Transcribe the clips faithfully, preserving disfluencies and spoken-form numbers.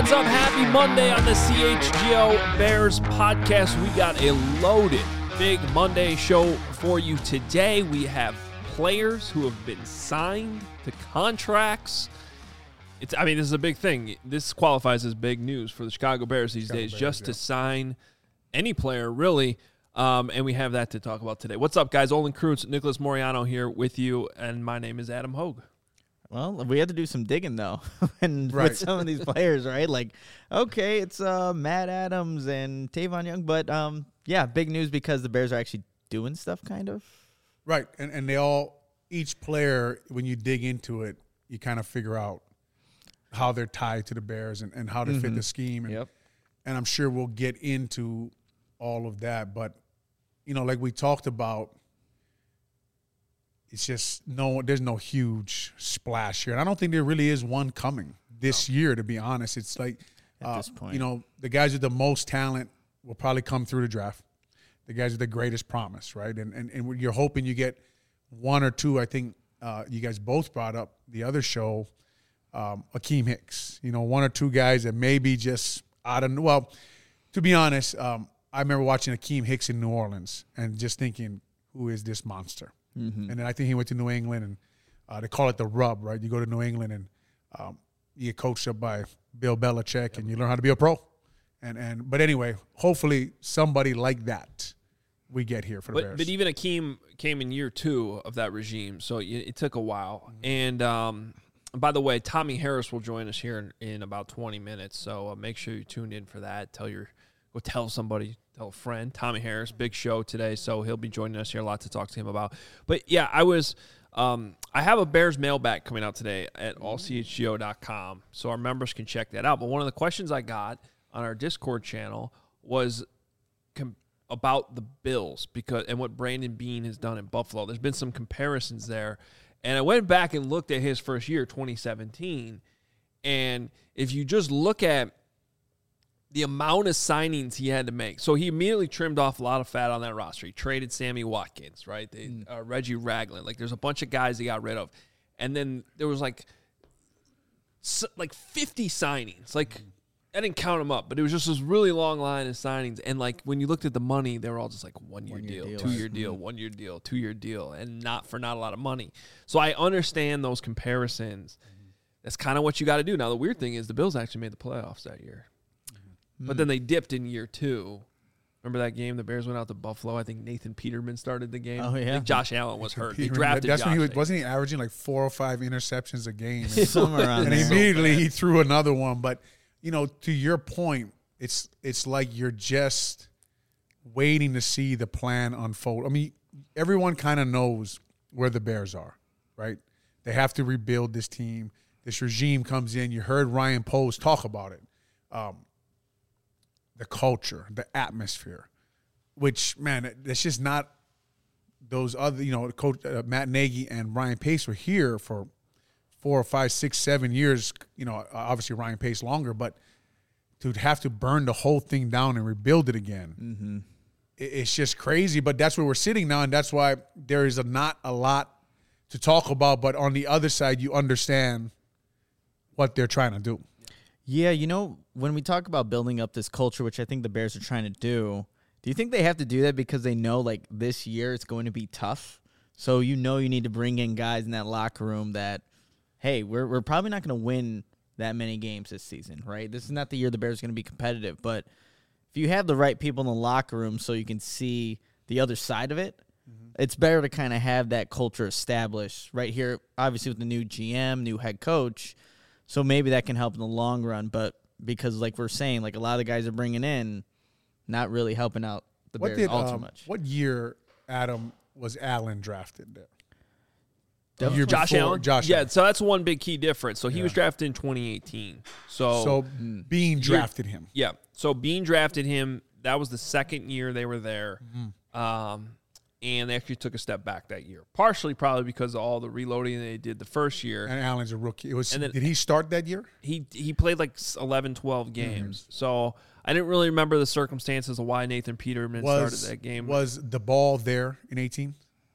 What's up? Happy Monday on the C H G O Bears podcast. We got a loaded big Monday show for you today. We have players who have been signed to contracts. It's, I mean, this is a big thing. This qualifies as big news for the Chicago Bears these Chicago days, Bears, just yeah. to sign any player, really. Um, and we have that to talk about today. What's up, guys? Olin Krutz, Nicholas Moriano here with you, and my name is Adam Hogue. Well, we had to do some digging, though, and right. with some of these players, right? Like, okay, it's uh, Matt Adams and Tavon Young, but, um, yeah, big news because the Bears are actually doing stuff, kind of. Right, and and they all, each player, when you dig into it, you kind of figure out how they're tied to the Bears and, and how to mm-hmm. fit the scheme. And, yep. and I'm sure we'll get into all of that, but, you know, like we talked about, it's just no, there's no huge splash here. And I don't think there really is one coming this no. year, to be honest. It's like, At uh, this point. you know, the guys with the most talent will probably come through the draft. The guys with the greatest promise, right? And and, and you're hoping you get one or two. I think uh, you guys both brought up the other show, um, Akeem Hicks. You know, one or two guys that maybe just out of, well, to be honest, um, I remember watching Akeem Hicks in New Orleans and just thinking, who is this monster? Mm-hmm. And then I think he went to New England, and uh, they call it the rub, right? You go to New England, and um, you get coached up by Bill Belichick, yep. and you learn how to be a pro. And and But anyway, hopefully somebody like that we get here for the but, Bears. But even Akeem came in year two of that regime, so it, it took a while. Mm-hmm. And um, by the way, Tommy Harris will join us here in, in about twenty minutes, so uh, make sure you tune in for that. Tell your Go tell somebody, tell a friend. Tommy Harris, big show today, so he'll be joining us here. A lot to talk to him about. But, yeah, I was um, – I have a Bears mailbag coming out today at all c h g o dot com, so our members can check that out. But one of the questions I got on our Discord channel was com- about the Bills because and what Brandon Beane has done in Buffalo. There's been some comparisons there. And I went back and looked at his first year, twenty seventeen, and if you just look at the amount of signings he had to make. So he immediately trimmed off a lot of fat on that roster. He traded Sammy Watkins, right? They, mm. uh, Reggie Ragland. Like, there's a bunch of guys he got rid of. And then there was, like, so, like fifty signings. Like, mm. I didn't count them up, but it was just this really long line of signings. And, like, when you looked at the money, they were all just, like, one-year one deal, deal, two-year deal, mm. one-year deal, two-year deal, and not for not a lot of money. So I understand those comparisons. Mm. That's kind of what you got to do. Now, the weird thing is the Bills actually made the playoffs that year. But then they dipped in year two. Remember that game? The Bears went out to Buffalo. I think Nathan Peterman started the game. Oh, yeah. I think Josh Allen was hurt. Peterman, they drafted That's Josh when he was, Allen. wasn't he averaging like four or five interceptions a game? And, Somewhere around and there. immediately he threw another one. But, you know, to your point, it's it's like you're just waiting to see the plan unfold. I mean, everyone kind of knows where the Bears are, right? They have to rebuild this team. This regime comes in. You heard Ryan Poles talk about it. Um, the culture, the atmosphere, which, man, it's just not those other, you know, Coach uh, Matt Nagy and Ryan Pace were here for four or five, six, seven years. You know, obviously Ryan Pace longer, but to have to burn the whole thing down and rebuild it again, mm-hmm. it, it's just crazy. But that's where we're sitting now, and that's why there is a, not a lot to talk about. But on the other side, you understand what they're trying to do. Yeah, you know, when we talk about building up this culture, which I think the Bears are trying to do, do you think they have to do that because they know, like, this year it's going to be tough? So you know you need to bring in guys in that locker room that, hey, we're we're probably not going to win that many games this season, right? This is not the year the Bears are going to be competitive. But if you have the right people in the locker room so you can see the other side of it, mm-hmm. it's better to kind of have that culture established right here, obviously with the new G M, new head coach. So maybe that can help in the long run, but because, like we're saying, like a lot of the guys are bringing in, not really helping out the what Bears did, all um, too much. What year, Adam, was Allen drafted there? The year Josh before, Allen? Josh yeah, Allen. so that's one big key difference. So he Yeah. was drafted in twenty eighteen. So, So mm. Beane drafted him. Yeah, so Beane drafted him. That was the second year they were there. Mm-hmm. Um, and they actually took a step back that year, partially probably because of all the reloading they did the first year. And Allen's a rookie. It was. And then- did he start that year? He he played like eleven, twelve games. Mm-hmm. So I didn't really remember the circumstances of why Nathan Peterman Was started that game. was the ball there in eighteen?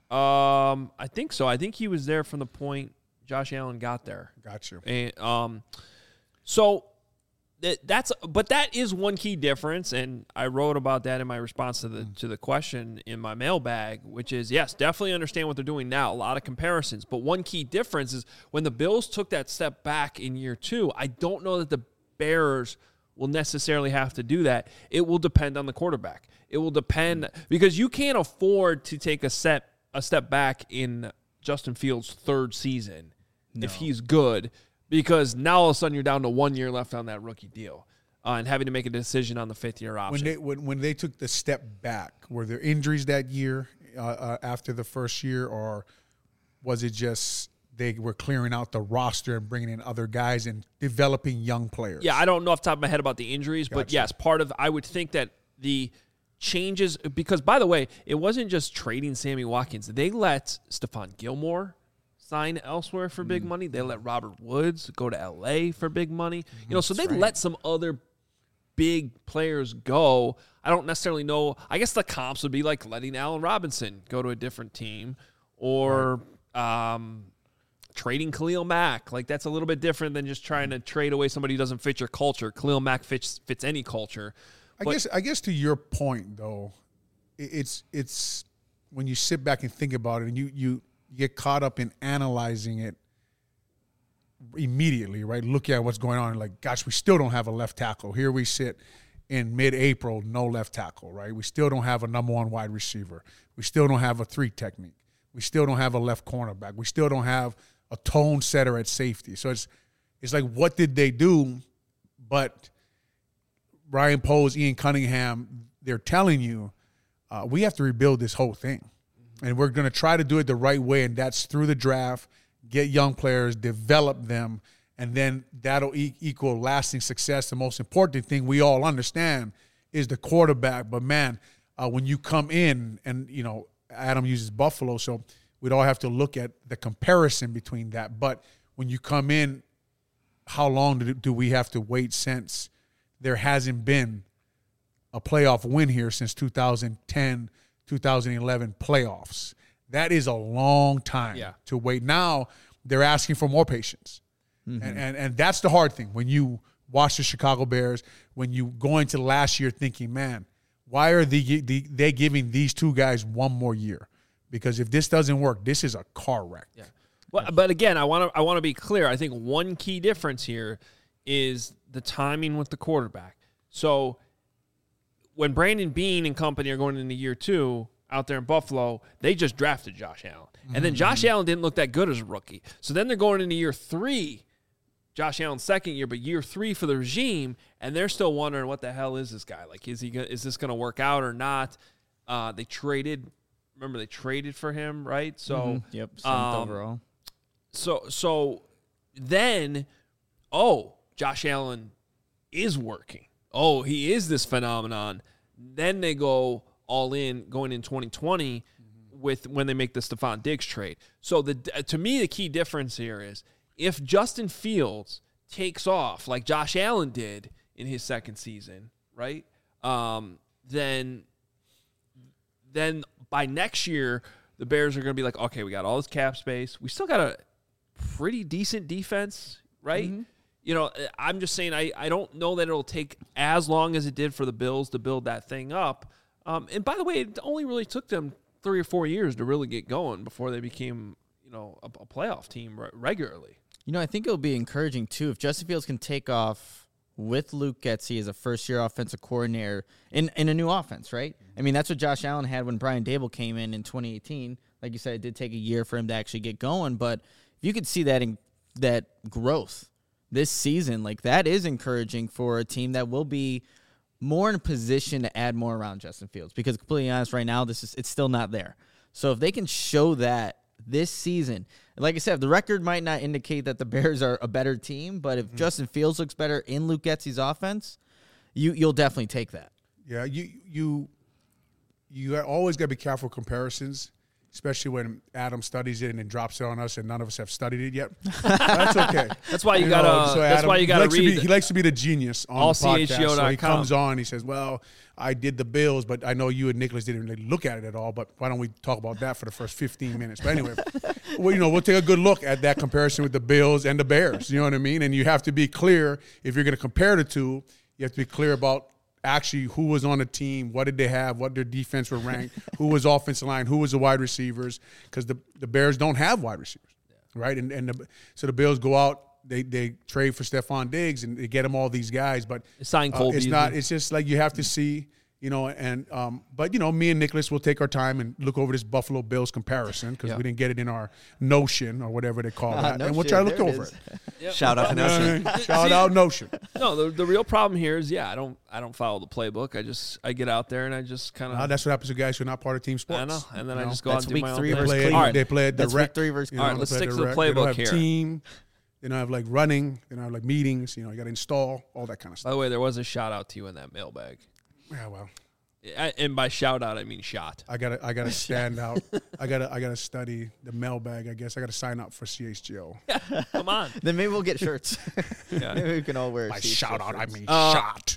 Um, I think so. I think he was there from the point Josh Allen got there. Got you. And um, so that that's but that is one key difference, and I wrote about that in my response to the mm. to the question in my mailbag, which is yes, definitely understand what they're doing now. A lot of comparisons, but one key difference is when the Bills took that step back in year two. I don't know that the Bears will necessarily have to do that. It will depend on the quarterback. It will depend because you can't afford to take a step a step back in Justin Fields' third season no. if he's good. Because now all of a sudden you're down to one year left on that rookie deal uh, and having to make a decision on the fifth year option. When they when, when they took the step back, were there injuries that year uh, uh, after the first year, or was it just they were clearing out the roster and bringing in other guys and developing young players? Yeah, I don't know off the top of my head about the injuries, gotcha. But yes, part of I would think that the changes because by the way, it wasn't just trading Sammy Watkins. They let Stephon Gilmore sign elsewhere for big money. They let Robert Woods go to L A for big money. You know, so they right. let some other big players go. I don't necessarily know. I guess the comps would be like letting Allen Robinson go to a different team or right. um, trading Khalil Mack. Like that's a little bit different than just trying to trade away somebody who doesn't fit your culture. Khalil Mack fits fits any culture. I but, guess I guess to your point though, it's it's when you sit back and think about it and you you get caught up in analyzing it immediately, right? Look at what's going on and like, gosh, we still don't have a left tackle. Here we sit in mid-April, no left tackle, right? We still don't have a number one wide receiver. We still don't have a three technique. We still don't have a left cornerback. We still don't have a tone setter at safety. So it's it's like, what did they do? But Ryan Poles, Ian Cunningham, they're telling you, uh, we have to rebuild this whole thing. And we're going to try to do it the right way, and that's through the draft, get young players, develop them, and then that'll e- equal lasting success. The most important thing we all understand is the quarterback. But, man, uh, when you come in, and, you know, Adam uses Buffalo, so we'd all have to look at the comparison between that. But when you come in, how long do, do we have to wait since there hasn't been a playoff win here since two thousand ten two thousand eleven playoffs? That is a long time yeah. to wait. Now they're asking for more patience. Mm-hmm. And, and and that's the hard thing. When you watch the Chicago Bears, when you go into last year thinking, man, why are they, they, they giving these two guys one more year? Because if this doesn't work, this is a car wreck. Yeah. Well, but again, I want to I want to be clear. I think one key difference here is the timing with the quarterback. So when Brandon Beane and company are going into year two out there in Buffalo, they just drafted Josh Allen. And mm-hmm. then Josh Allen didn't look that good as a rookie. So then they're going into year three, Josh Allen's second year, but year three for the regime, and they're still wondering what the hell is this guy? Like, is he gonna, is this going to work out or not? Uh, they traded, remember they traded for him, right? So mm-hmm. Yep, seventh um, overall. So so then, oh, Josh Allen is working. Oh, he is this phenomenon. Then they go all in going in twenty twenty mm-hmm. with when they make the Stephon Diggs trade. So the to me, the key difference here is if Justin Fields takes off like Josh Allen did in his second season, right? Um, then, then by next year, the Bears are going to be like, okay, we got all this cap space. We still got a pretty decent defense, right? Mm-hmm. You know, I'm just saying I, I don't know that it'll take as long as it did for the Bills to build that thing up. Um, and by the way, it only really took them three or four years to really get going before they became, you know, a, a playoff team re- regularly. You know, I think it'll be encouraging, too, if Justin Fields can take off with Luke Getsy as a first-year offensive coordinator in, in a new offense, right? I mean, that's what Josh Allen had when Brian Daboll came in in twenty eighteen. Like you said, it did take a year for him to actually get going, but if you could see that in, that growth this season, like that is encouraging for a team that will be more in a position to add more around Justin Fields. Because completely honest, right now, this is it's still not there. So if they can show that this season, like I said, the record might not indicate that the Bears are a better team, but if mm-hmm. Justin Fields looks better in Luke Getsy's offense, you you'll definitely take that. Yeah, you you you always got to be careful with comparisons. especially when Adam studies it and then drops it on us, and none of us have studied it yet. That's okay. That's why you, You gotta. know, so that's Adam, why you he gotta likes to read. be- he likes to be the genius on all the podcast. C H G O dot com. So he comes on. He says, "Well, I did the Bills, but I know you and Nicholas didn't really look at it at all. But why don't we talk about that for the first fifteen minutes?" But anyway, well, you know, we'll take a good look at that comparison with the Bills and the Bears. You know what I mean? And you have to be clear if you're going to compare the two. You have to be clear about actually who was on the team, what did they have, what their defense were ranked, who was offensive line, who was the wide receivers, because the, the Bears don't have wide receivers, right? And and the, so the Bills go out, they they trade for Stephon Diggs, and they get them all these guys, but Sign uh, Cole it's Beasley. not. It's just like you have to see, you know, and um, but you know, me and Nicholas will take our time and look over this Buffalo Bills comparison because Yeah. we didn't get it in our Notion or whatever they call Ah, that, no and we'll shit, try to look there it over is. it. Shout out to Notion. Shout out Notion. No, the, the real problem here is, yeah, I don't I don't follow the playbook. I just I get out there and I just kind of Uh, that's what happens to guys who are not part of team sports. I know, and then you I know? just go That's out and do week my own three thing. They versus play, Cleveland. All right, they play it That's direct. week three versus you know, All right, they let's play stick to the direct. They don't playbook have here. Team. They don't have like running. They don't have like meetings. You know, you got to install all that kind of By stuff. the way, there was a shout out to you in that mailbag. Yeah, well, I, and by shout out, I mean shot. I gotta, I gotta stand out. I gotta, I gotta study the mailbag. I guess I gotta sign up for C H G O. Come on. Then maybe we'll get shirts. Yeah. Maybe we can all wear. By C H G O shout out, I shirts. mean Uh, shot.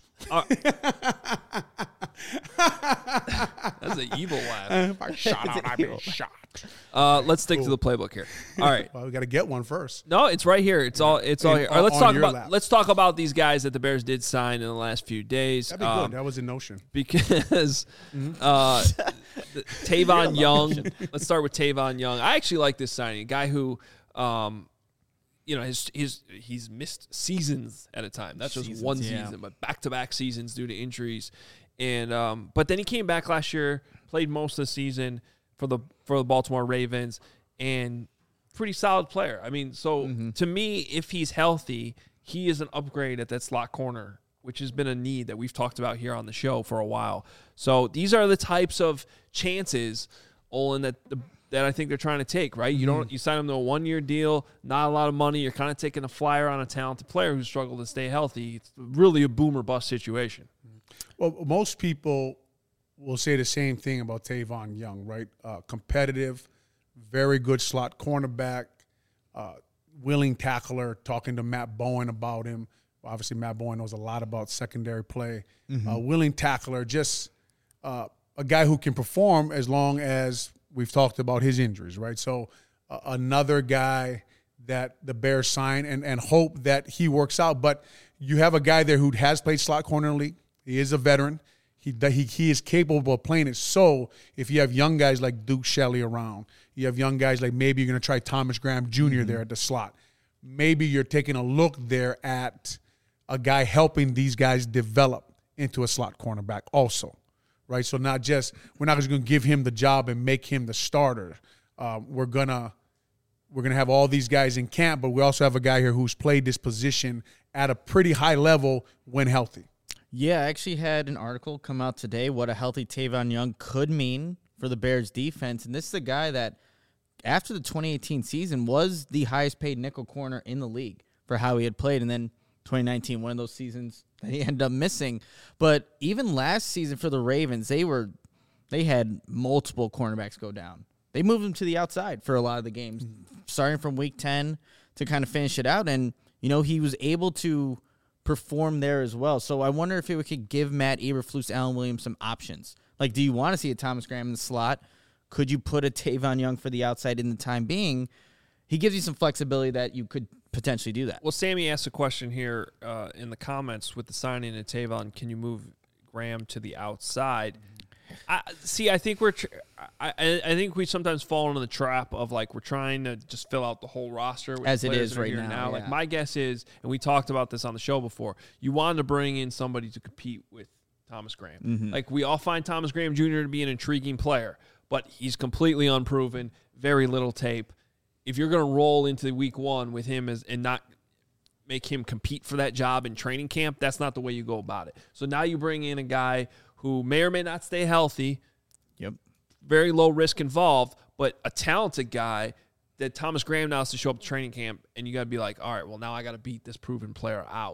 That's an evil laugh. By shout out, I mean shot. Uh, let's stick to the playbook here. All right. Well, we gotta get one first. No, it's right here. It's all. It's all In- here. All right, let's on talk your about. lap. Let's talk about these guys that the Bears did sign in the last few days. That'd be Um, good. That was in Notion. because Mm-hmm. uh, th- Tavon Young. Let's start with Tavon Young. I actually like this signing. A guy who, um, you know, his his he's missed seasons at a time. That's just Seasons, one yeah. season, but back to back seasons due to injuries. And um, but then he came back last year, played most of the season for the for the Baltimore Ravens, and pretty solid player. I mean, so Mm-hmm. to me, if he's healthy, he is an upgrade at that slot corner, which has been a need that we've talked about here on the show for a while. So these are the types of chances, Olin, that the, that I think they're trying to take, right? You don't you sign them to a one-year deal, not a lot of money. You're kind of taking a flyer on a talented player who struggled to stay healthy. It's really a boom or bust situation. Well, most people will say the same thing about Tavon Young, right? Uh, competitive, very good slot cornerback, uh, willing tackler. Talking to Matt Bowen about him. Obviously, Matt Bowen knows a lot about secondary play. Uh, willing tackler, just uh, a guy who can perform as long as we've talked about his injuries, right? So uh, another guy that the Bears sign and, and hope that he works out. But you have a guy there who has played slot corner in the league. He is a veteran. He, he he is capable of playing it. So if you have young guys like Duke Shelley around, you have young guys like maybe you're going to try Thomas Graham Junior there at the slot. Maybe you're taking a look there at a guy helping these guys develop into a slot cornerback also, right? So not just we're not just going to give him the job and make him the starter. Uh, we're gonna we're gonna have all these guys in camp, but we also have a guy here who's played this position at a pretty high level when healthy. Yeah, I actually had an article come out today what a healthy Tavon Young could mean for the Bears defense. And this is a guy that, after the twenty eighteen season, was the highest paid nickel corner in the league for how he had played. And then twenty nineteen, one of those seasons that he ended up missing. But even last season for the Ravens, they were they had multiple cornerbacks go down. They moved him to the outside for a lot of the games, starting from week ten to kind of finish it out. And, you know, he was able to perform there as well. So I wonder if it could give Matt Eberflus, Alan Williams some options. Like, do you want to see a Thomas Graham in the slot? Could you put a Tavon Young for the outside in the time being? He gives you some flexibility that you could potentially do that. Well, Sammy asked a question here uh, in the comments with the signing of Tavon. Can you move Graham to the outside? I, see, I think we're. Tr- I, I I think we sometimes fall into the trap of like we're trying to just fill out the whole roster with As it players is that are right here now, Like yeah. my guess is, and we talked about this on the show before. You wanted to bring in somebody to compete with Thomas Graham. Mm-hmm. Like we all find Thomas Graham Junior to be an intriguing player, but he's completely unproven, very little tape. If you're going to roll into week one with him as and not make him compete for that job in training camp, that's not the way you go about it. So now you bring in a guy who may or may not stay healthy. Yep. Very low risk involved, but a talented guy that Thomas Graham now has to show up to training camp, and you got to be like, all right, well, now I got to beat this proven player out.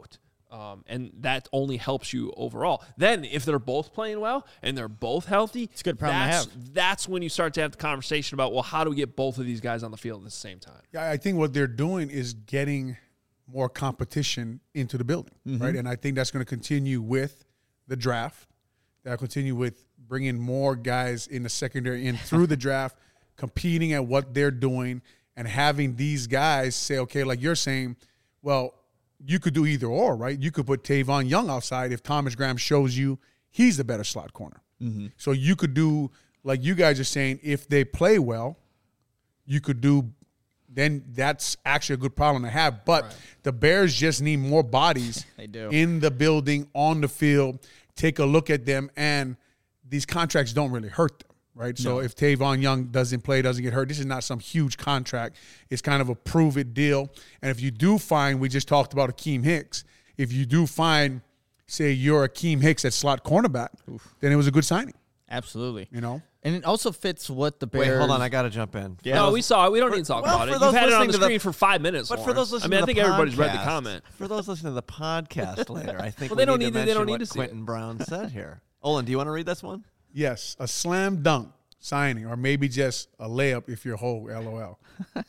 Um, and that only helps you overall. Then, if they're both playing well and they're both healthy, it's a good problem that's, to have. That's when you start to have the conversation about, well, how do we get both of these guys on the field at the same time? Yeah, I think what they're doing is getting more competition into the building, mm-hmm. right? And I think that's going to continue with the draft. That'll continue with bringing more guys in the secondary in through the draft, competing at what they're doing, and having these guys say, okay, like you're saying, well, you could do either or, right? You could put Tavon Young outside if Thomas Graham shows you he's the better slot corner. Mm-hmm. So you could do, like you guys are saying, if they play well, you could do, then that's actually a good problem to have. But right. the Bears just need more bodies they do. in the building, on the field. Take a look at them, and these contracts don't really hurt them. Right, no. So if Tavon Young doesn't play, doesn't get hurt, this is not some huge contract. It's kind of a prove-it deal. And if you do find, we just talked about Akeem Hicks, if you do find, say, you're Akeem Hicks at slot cornerback, Oof. then it was a good signing. Absolutely. You know? And it also fits what the Bears... Wait, hold on, I got to jump in. Yeah, no, we saw it. We don't for, need to talk well, about it. You've had it on the screen the, for five minutes, But Lawrence. for those listening I mean, to I think the everybody's podcast, read the comment. For those listening to the podcast later, I think well, we they don't need, need to to, they don't what need to see Quentin it. Brown said here. Olin, do you want to read this one? Yes, a slam dunk signing, or maybe just a layup if you're whole, L O L.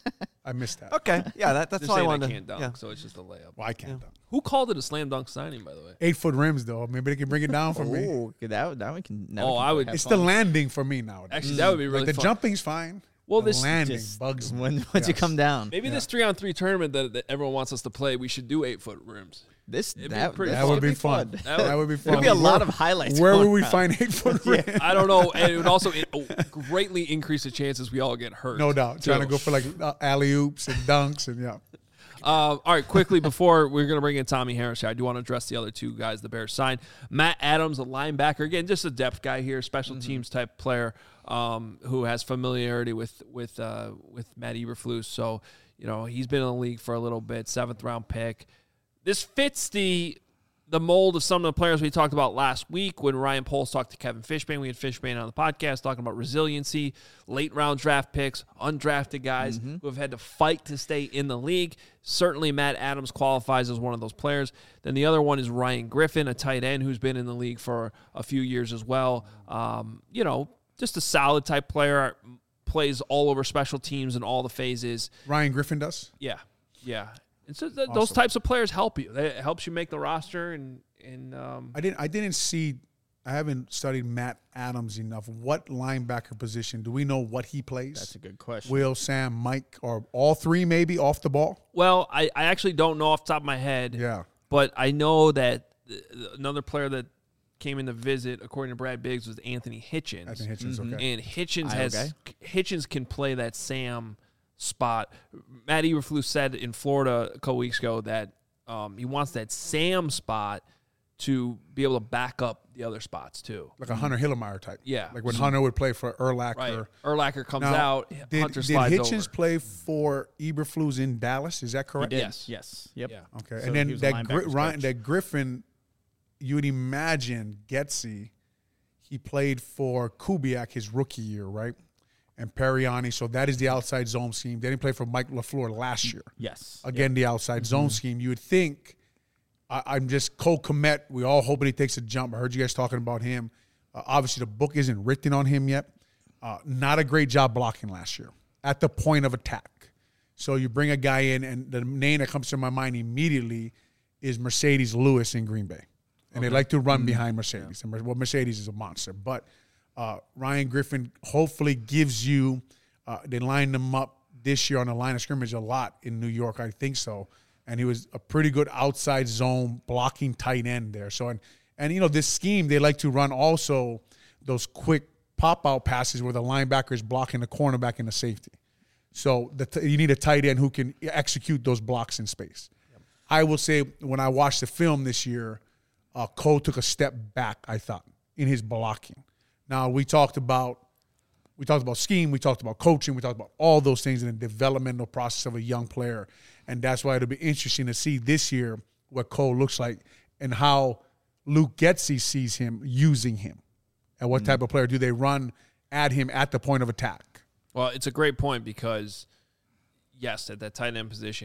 I missed that. Okay, yeah, that, that's They're all I saying wanted I to can't dunk, yeah. so it's just a layup. Well, I can't Yeah. dunk. Who called it a slam dunk signing, by the way? Eight foot rims, though. Maybe they can bring it down for me. Oh, that, that one can... That Oh, one can I would- have It's fun. the landing for me now. Actually, that would be really like the fun. jumping's fine. Well, the this landing Just bugs me. when once you Yes. come down. Maybe Yeah. this three-on-three tournament that, that everyone wants us to play, we should do eight-foot rims. This It'd be that, pretty this That would could be fun. That That would- would be fun. There'd be a lot Where- of highlights. Where going would we on. find eight foot rims? I don't know, and it would also it, oh, greatly increase the chances we all get hurt. No doubt. Trying to too. go for like uh, alley oops and dunks and yeah. Uh, all right, quickly before we're going to bring in Tommy Harris here, I do want to address the other two guys the Bears signed. Matt Adams, a linebacker, again, just a depth guy here, special mm-hmm. teams type player um, who has familiarity with with uh, with Matt Eberflus. So, you know, he's been in the league for a little bit, seventh round pick. This fits the the mold of some of the players we talked about last week when Ryan Poles talked to Kevin Fishbain. We had Fishbain on the podcast talking about resiliency, late round draft picks, undrafted guys mm-hmm. who have had to fight to stay in the league. Certainly Matt Adams qualifies as one of those players. Then the other one is Ryan Griffin, a tight end who's been in the league for a few years as well. Um, you know, just a solid type player, plays all over special teams in all the phases. Ryan Griffin does? Yeah, yeah. And so th- Awesome. those types of players help you. It helps you make the roster. And and um, I didn't. I didn't see. I haven't studied Matt Adams enough. What linebacker position do we know what he plays? That's a good question. Will, Sam, Mike, or all three maybe off the ball? well, I, I actually don't know off the top of my head. Yeah. But I know that th- another player that came in to visit, according to Brad Biggs, was Anthony Hitchens. I think Hitchens. Mm-hmm. Okay. And Hitchens I, has okay. Hitchens can play that Sam spot. Matt Eberflus said in Florida a couple weeks ago that um, he wants that Sam spot to be able to back up the other spots too. Like a Hunter Hillemeyer type. Yeah. Like when Hunter would play for Urlacher. Right. Urlacher comes Now, out, Did, Hunter did slides Hitchens over. play for Eberflus in Dallas? Is that correct? He did. Yes. Yes. Yep. Yeah. Okay. So and he then was a that, Gri- linebackers Ryan, coach. that Griffin, you would imagine Getsy, he played for Kubiak his rookie year, right? And Periani. So that is the outside zone scheme. They didn't play for Mike LaFleur last year. Yes. Again, the outside zone scheme. You would think, I, I'm just Cole Kmet. We all hoping he takes a jump. I heard you guys talking about him. Uh, obviously, the book isn't written on him yet. Uh, not a great job blocking last year at the point of attack. So you bring a guy in, and the name that comes to my mind immediately is Mercedes Lewis in Green Bay. And okay. they like to run mm-hmm. behind Mercedes. Yeah. And well, Mercedes is a monster. But uh, Ryan Griffin hopefully gives you uh, – they lined him up this year on the line of scrimmage a lot in New York. I think so. And he was a pretty good outside zone blocking tight end there. So, and, and you know, this scheme, they like to run also those quick pop-out passes where the linebacker is blocking the cornerback and the safety. So the t- you need a tight end who can execute those blocks in space. Yep. I will say when I watched the film this year, uh, Cole took a step back, I thought, in his blocking. Now, we talked about we talked about scheme, we talked about coaching, we talked about all those things in the developmental process of a young player. And that's why it'll be interesting to see this year what Cole looks like and how Luke Getsy sees him using him. And what mm-hmm. type of player do they run at him at the point of attack? Well, it's a great point because, yes, at that tight end position,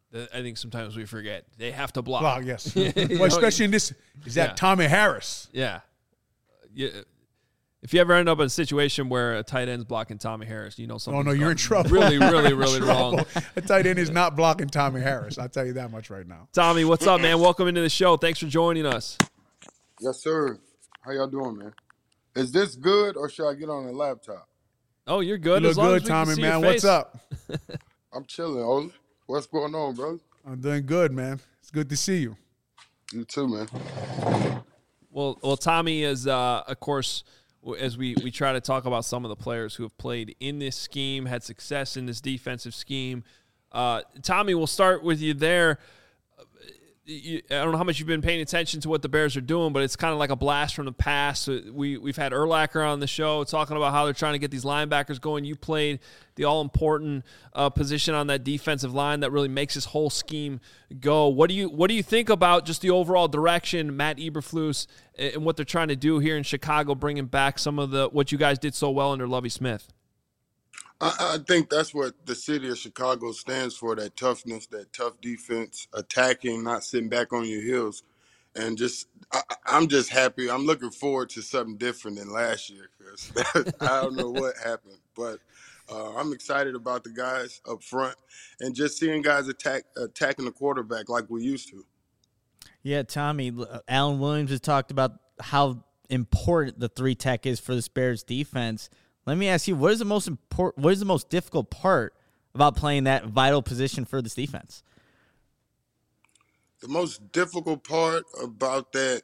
that I think sometimes we forget. They have to block. Block, yes. You well, know, especially in this, is that Yeah. Tommy Harris. Yeah. Yeah. If you ever end up in a situation where a tight end's blocking Tommy Harris, you know something. Oh, no, you're in trouble. Really, really, really wrong. A tight end is not blocking Tommy Harris. I'll tell you that much right now. Tommy, what's up, man? Welcome into the show. Thanks for joining us. Yes, sir. How y'all doing, man? Is this good or should I get on the laptop? Oh, you're good. You as look long good, as we can Tommy, see your man. What's face. up? I'm chilling, Ola. What's going on, bro? I'm doing good, man. It's good to see you. You too, man. Well, well, Tommy is, uh, of course, w- as we, we try to talk about some of the players who have played in this scheme, had success in this defensive scheme. Uh, Tommy, we'll start with you there. You, I don't know how much you've been paying attention to what the Bears are doing, but it's kind of like a blast from the past. We, we've had Urlacher on the show talking about how they're trying to get these linebackers going. You played the all-important uh, position on that defensive line that really makes this whole scheme go. What do you what do you think about just the overall direction, Matt Eberflus, and what they're trying to do here in Chicago, bringing back some of the what you guys did so well under Lovie Smith? I, I think that's what the city of Chicago stands for, that toughness, that tough defense, attacking, not sitting back on your heels. And just, I, I'm just happy. I'm looking forward to something different than last year because I don't know what happened. But uh, I'm excited about the guys up front and just seeing guys attack attacking the quarterback like we used to. Yeah, Tommy, uh, Alan Williams has talked about how important the three tech is for the Bears defense. Let me ask you, what is the most important, what is the most difficult part about playing that vital position for this defense? The most difficult part about that,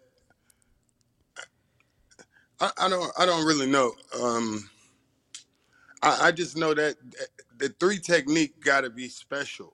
I, I don't, I don't really know. Um, I, I just know that the three technique got to be special.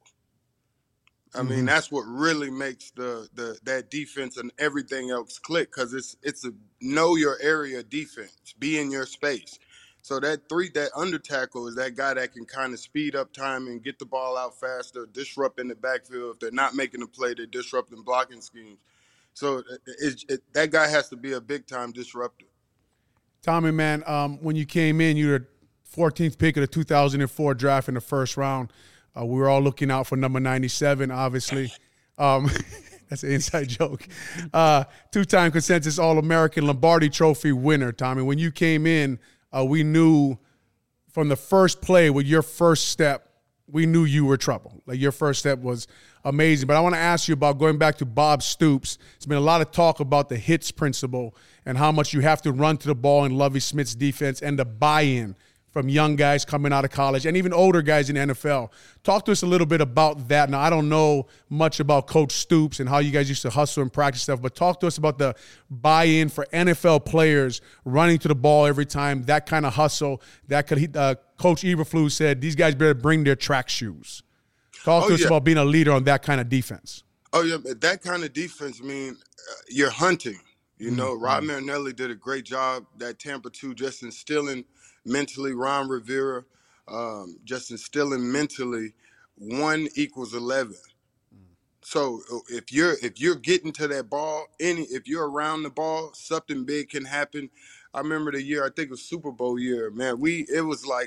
I mm-hmm. mean, that's what really makes the the that defense and everything else click because it's it's a know your area defense, be in your space. So that three, that under tackle is that guy that can kind of speed up time and get the ball out faster, disrupt in the backfield. If they're not making a play, they're disrupting blocking schemes. So it, it, that guy has to be a big-time disruptor. Tommy, man, um, when you came in, you were the fourteenth pick of the two thousand four draft in the first round. Uh, we were all looking out for number ninety-seven, obviously. Um, that's an inside joke. Uh, two-time consensus All-American Lombardi Trophy winner, Tommy. When you came in, Uh, we knew from the first play with your first step, we knew you were trouble. Like your first step was amazing. But I want to ask you about going back to Bob Stoops. There's been a lot of talk about the hits principle and how much you have to run to the ball in Lovie Smith's defense and the buy-in from young guys coming out of college and even older guys in the N F L. Talk to us a little bit about that. Now, I don't know much about Coach Stoops and how you guys used to hustle and practice stuff, but talk to us about the buy-in for N F L players running to the ball every time, that kind of hustle. That could, uh, Coach Eberflus said these guys better bring their track shoes. Talk oh, to us yeah. about being a leader on that kind of defense. Oh, yeah, that kind of defense, I mean, uh, you're hunting. You mm-hmm. know, Rod Marinelli did a great job, that Tampa two, just instilling mentally, Ron Rivera, um, just instilling mentally one equals eleven. Mm. So if you're if you're getting to that ball, any if you're around the ball, something big can happen. I remember the year, I think it was Super Bowl year, man. We it was like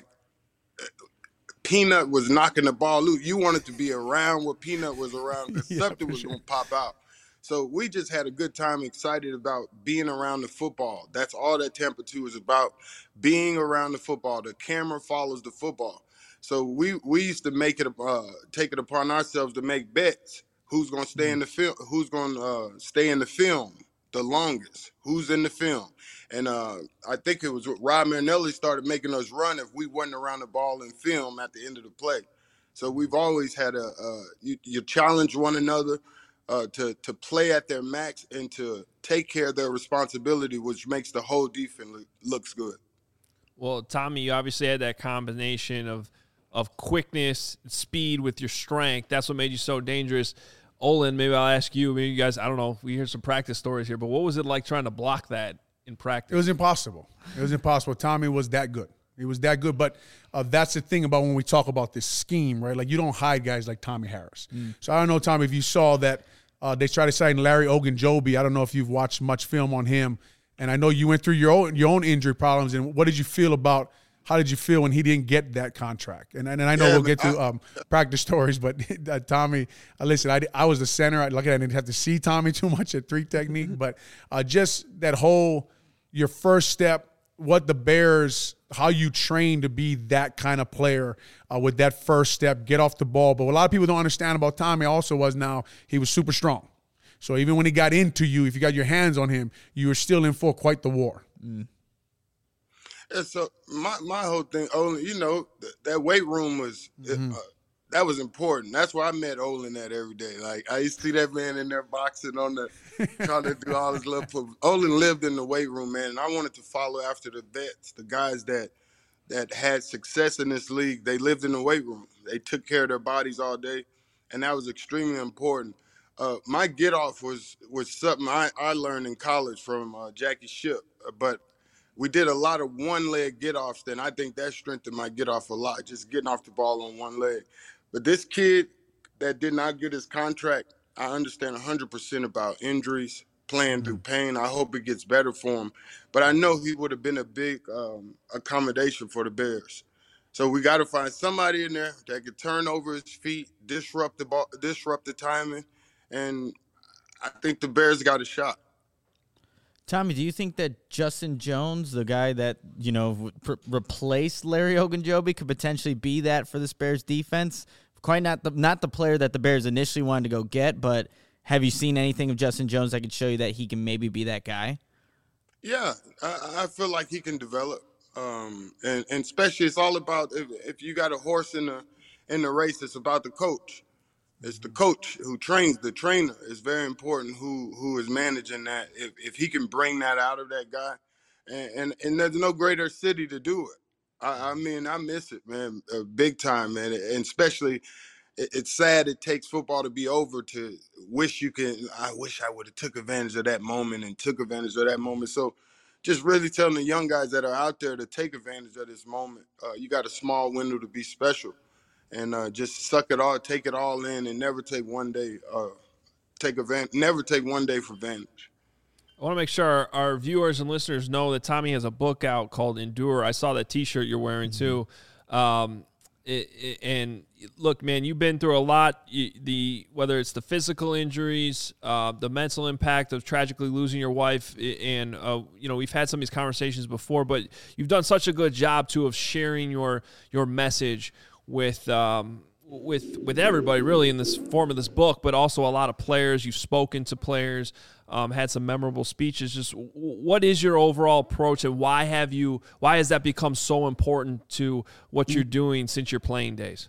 Peanut was knocking the ball loose. You wanted to be around where Peanut was around because yeah, something was sure. gonna pop out. So we just had a good time, excited about being around the football. That's all that Tampa two is about, being around the football. The camera follows the football. So we we used to make it, uh, take it upon ourselves to make bets. Who's going to stay in the film? Who's going to uh, stay in the film the longest? Who's in the film? And uh, I think it was Rod Marinelli started making us run if we wasn't around the ball in film at the end of the play. So we've always had a uh, you, you challenge one another. Uh, to to play at their max and to take care of their responsibility, which makes the whole defense look, looks good. Well, Tommy, you obviously had that combination of of quickness, speed with your strength. That's what made you so dangerous. Olin, maybe I'll ask you. Maybe you guys, I don't know. We hear some practice stories here, but what was it like trying to block that in practice? It was impossible. It was impossible. Tommy was that good. He was that good. But uh, that's the thing about when we talk about this scheme, right? Like you don't hide guys like Tommy Harris. Mm. So I don't know, Tommy, if you saw that uh, they tried to sign Larry Ogunjobi. I don't know if you've watched much film on him. And I know you went through your own, your own injury problems. And what did you feel about how did you feel when he didn't get that contract? And and I know Yeah, we'll man, get to I- um, practice stories, but uh, Tommy, uh, listen, I, I was the center. I luckily I didn't have to see Tommy too much at three technique, but uh, just that whole your first step, what the Bears, how you train to be that kind of player uh, with that first step, get off the ball. But what a lot of people don't understand about Tommy also was now he was super strong. So even when he got into you, if you got your hands on him, you were still in for quite the war. Mm. Yeah, so my my whole thing, Olin, you know, th- that weight room was Mm-hmm. uh, that was important. That's where I met Olin at every day. Like I used to see that man in there boxing on the trying to do all his little. Put, Olin lived in the weight room, man, and I wanted to follow after the vets, the guys that that had success in this league. They lived in the weight room. They took care of their bodies all day, and that was extremely important. Uh, my get off was was something I, I learned in college from uh, Jackie Ship, but we did a lot of one leg get offs. Then I think that strengthened my get off a lot, just getting off the ball on one leg. But this kid that did not get his contract, I understand one hundred percent about injuries, playing through pain. I hope it gets better for him. But I know he would have been a big um, accommodation for the Bears. So we got to find somebody in there that could turn over his feet, disrupt the ball, disrupt the timing, and I think the Bears got a shot. Tommy, do you think that Justin Jones, the guy that, you know, re- replaced Larry Ogunjobi, could potentially be that for this Bears defense? Quite not the not the player that the Bears initially wanted to go get, but have you seen anything of Justin Jones that could show you that he can maybe be that guy? Yeah, I, I feel like he can develop, um, and, and especially it's all about if, if you got a horse in the in the race, it's about the coach. It's the coach who trains the trainer. It's very important who who is managing that. If if he can bring that out of that guy, and and, and there's no greater city to do it. I, I mean, I miss it, man, uh, big time, man, and especially. it- It's sad it takes football to be over to wish you can. I wish I would have took advantage of that moment and took advantage of that moment. So, just really telling the young guys that are out there to take advantage of this moment. Uh, you got a small window to be special, and uh, just suck it all, take it all in, and never take one day. Uh, take advantage. Never take one day for advantage. I want to make sure our, our viewers and listeners know that Tommy has a book out called Endure. I saw that T-shirt you're wearing too. Um, it, it, and look, man, you've been through a lot. You, the whether it's the physical injuries, uh, the mental impact of tragically losing your wife, and uh, you know we've had some of these conversations before. But you've done such a good job too of sharing your your message with. Um, with with everybody really in this form of this book, but also a lot of players. You've spoken to players, um, had some memorable speeches. Just w- what is your overall approach, and why have you? Why has that become so important to what you're doing since your playing days?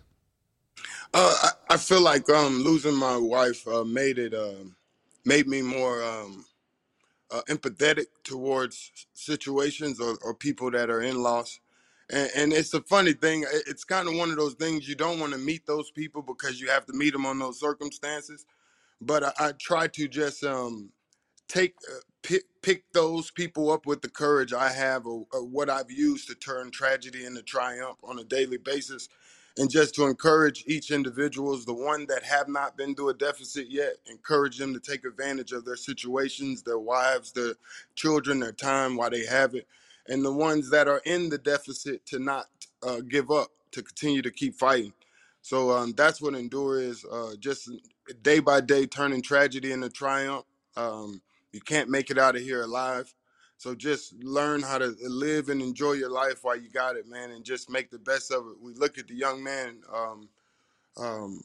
Uh, I, I feel like um, losing my wife uh, made it um, made me more um, uh, empathetic towards situations or, or people that are in loss. And, and it's a funny thing. It- It's kind of one of those things you don't want to meet those people because you have to meet them on those circumstances. But I, I try to just um, take uh, pick, pick those people up with the courage I have or, or what I've used to turn tragedy into triumph on a daily basis, and just to encourage each individuals, the one that have not been through a deficit yet, encourage them to take advantage of their situations, their wives, their children, their time while they have it, and the ones that are in the deficit to not uh, give up, to continue to keep fighting. So um, that's what Endure is, uh, just day by day turning tragedy into triumph. Um, you can't make it out of here alive. So just learn how to live and enjoy your life while you got it, man, and just make the best of it. We look at the young man, um, um,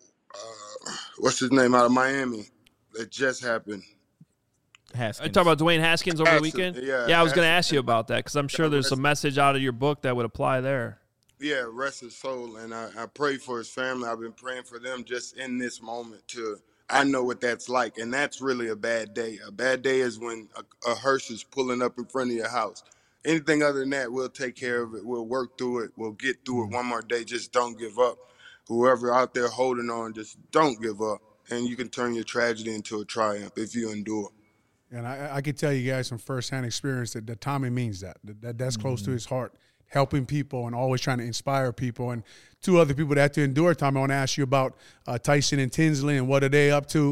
uh, what's his name, out of Miami, that just happened. Haskins. I talk about Dwayne Haskins over the Haskins, weekend. yeah, yeah I was going to Haskins. ask you about that because I'm sure there's a message out of your book that would apply there. Yeah, rest his soul, and I, I pray for his family. I've been praying for them just in this moment to, I know what that's like, and that's really a bad day. A bad day is when a, a hearse is pulling up in front of your house. Anything other than that, we'll take care of it. We'll work through it. We'll get through it one more day. Just don't give up. Whoever out there holding on, just don't give up, and you can turn your tragedy into a triumph if you endure. And I, I can tell you guys from firsthand experience that, that Tommy means that. that, that that's close to his heart, helping people and always trying to inspire people. And two other people that have to endure, Tommy, I want to ask you about uh, Tyson and Tinsley and what are they up to?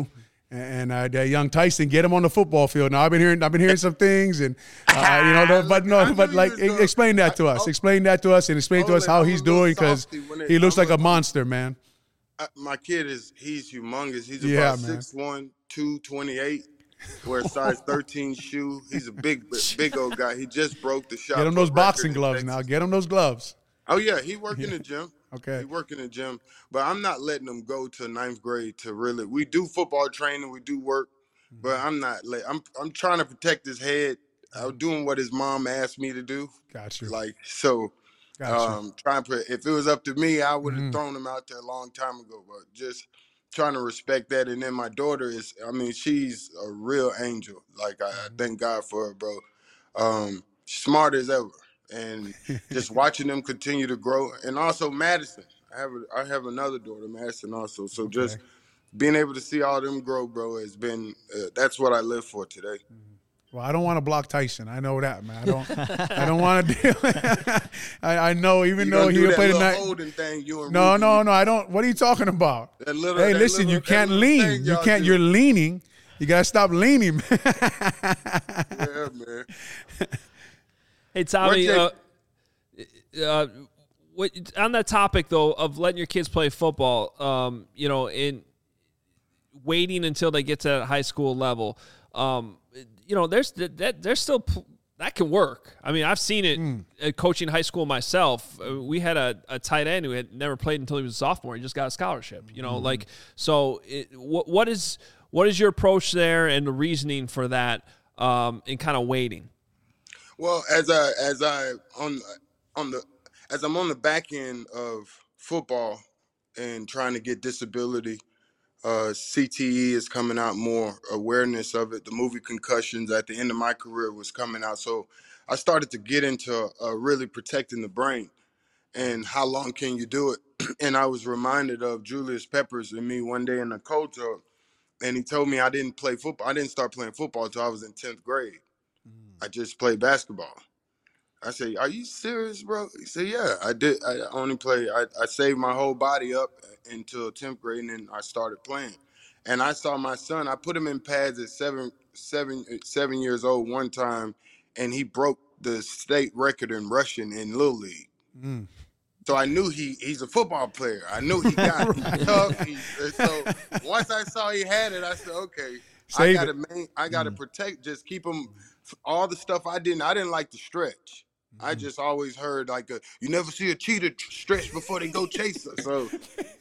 And uh, that young Tyson, get him on the football field. Now I've been hearing, I've been hearing some things, and uh, you know, no, but no, but like, explain that to us. Explain that to us, and explain to us how he's doing, because he looks like a monster, man. I, my kid is he's humongous. He's Yeah, about six one, two twenty-eight. Wears size thirteen shoe. He's a big, big old guy. He just broke the shot. Get him those boxing gloves now. Get him those gloves. Oh yeah, he work in the gym. Okay. He work in the gym, but I'm not letting him go to ninth grade to really. We do football training, we do work, but I'm not. Let, I'm I'm trying to protect his head. I'm doing what his mom asked me to do. Got you. Like so. Gotcha. Um, trying to. If it was up to me, I would have mm-hmm. thrown him out there a long time ago. But just trying to respect that. And then my daughter is. I mean, she's a real angel. Like I, I thank God for her, bro. Um, smart as ever. And just watching them continue to grow, and also Madison. I have a, I have another daughter, Madison, also. So okay. just being able to see all them grow, bro, has been uh, that's what I live for today. Well, I don't want to block Tyson. I know that, man. I don't. I don't want to deal. I, I know, even you though he'll play the night. Holding thing, you and no, Rudy, no, no. I don't. What are you talking about? That little, hey, that listen, little, you can't lean. You can't. Do. You're leaning. You gotta stop leaning. Yeah, man. Hey, Tommy, uh, uh, what, on that topic, though, of letting your kids play football, um, you know, in waiting until they get to that high school level, um, you know, there's that there's still that can work. I mean, I've seen it mm. at coaching high school myself. We had a, a tight end who had never played until he was a sophomore. He just got a scholarship, you know, mm. like, so it, what what is what is your approach there and the reasoning for that um, in kind of waiting? Well, as I as I on on the as I'm on the back end of football and trying to get disability, uh, C T E is coming out more, awareness of it. The movie Concussions at the end of my career was coming out, so I started to get into uh, really protecting the brain and how long can you do it. And I was reminded of Julius Peppers and me one day in the coach, and he told me I didn't play football. I didn't start playing football until I was in tenth grade. I just played basketball. I said, "Are you serious, bro?" He said, "Yeah, I did. I only play. I, I saved my whole body up until tenth grade, and then I started playing." And I saw my son. I put him in pads at seven, seven, seven years old one time, and he broke the state record in rushing in Little League. Mm. So I knew he he's a football player. I knew he got right. tough. He, so once I saw he had it, I said, "Okay, Save I got to I got to mm. protect. Just keep him." All the stuff I didn't, I didn't like to stretch. Mm-hmm. I just always heard like a, you never see a cheetah stretch before they go chase her. So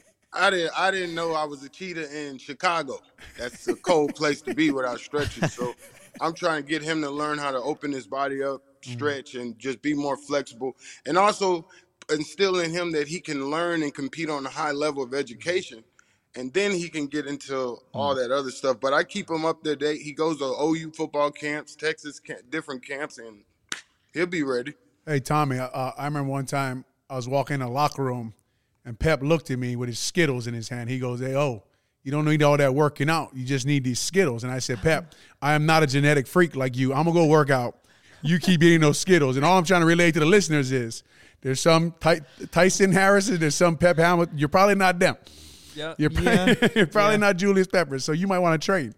I didn't, I didn't know I was a cheetah in Chicago. That's a cold place to be without stretching. So I'm trying to get him to learn how to open his body up, stretch, mm-hmm. and just be more flexible. And also instill in him that he can learn and compete on a high level of education. And then he can get into all that other stuff. But I keep him up to date. He goes to O U football camps, Texas camp, different camps, and he'll be ready. Hey, Tommy, uh, I remember one time I was walking in the locker room, and Pep looked at me with his Skittles in his hand. He goes, "Hey, oh, you don't need all that working out. You just need these Skittles." And I said, "Pep, I am not a genetic freak like you. I'm going to go work out. You keep eating those Skittles." And all I'm trying to relate to the listeners is there's some Ty- Tyson Harrison, there's some Pep Hamilton. You're probably not them. Yeah. You're, yeah. you're probably yeah. not Julius Peppers, so you might want to trade.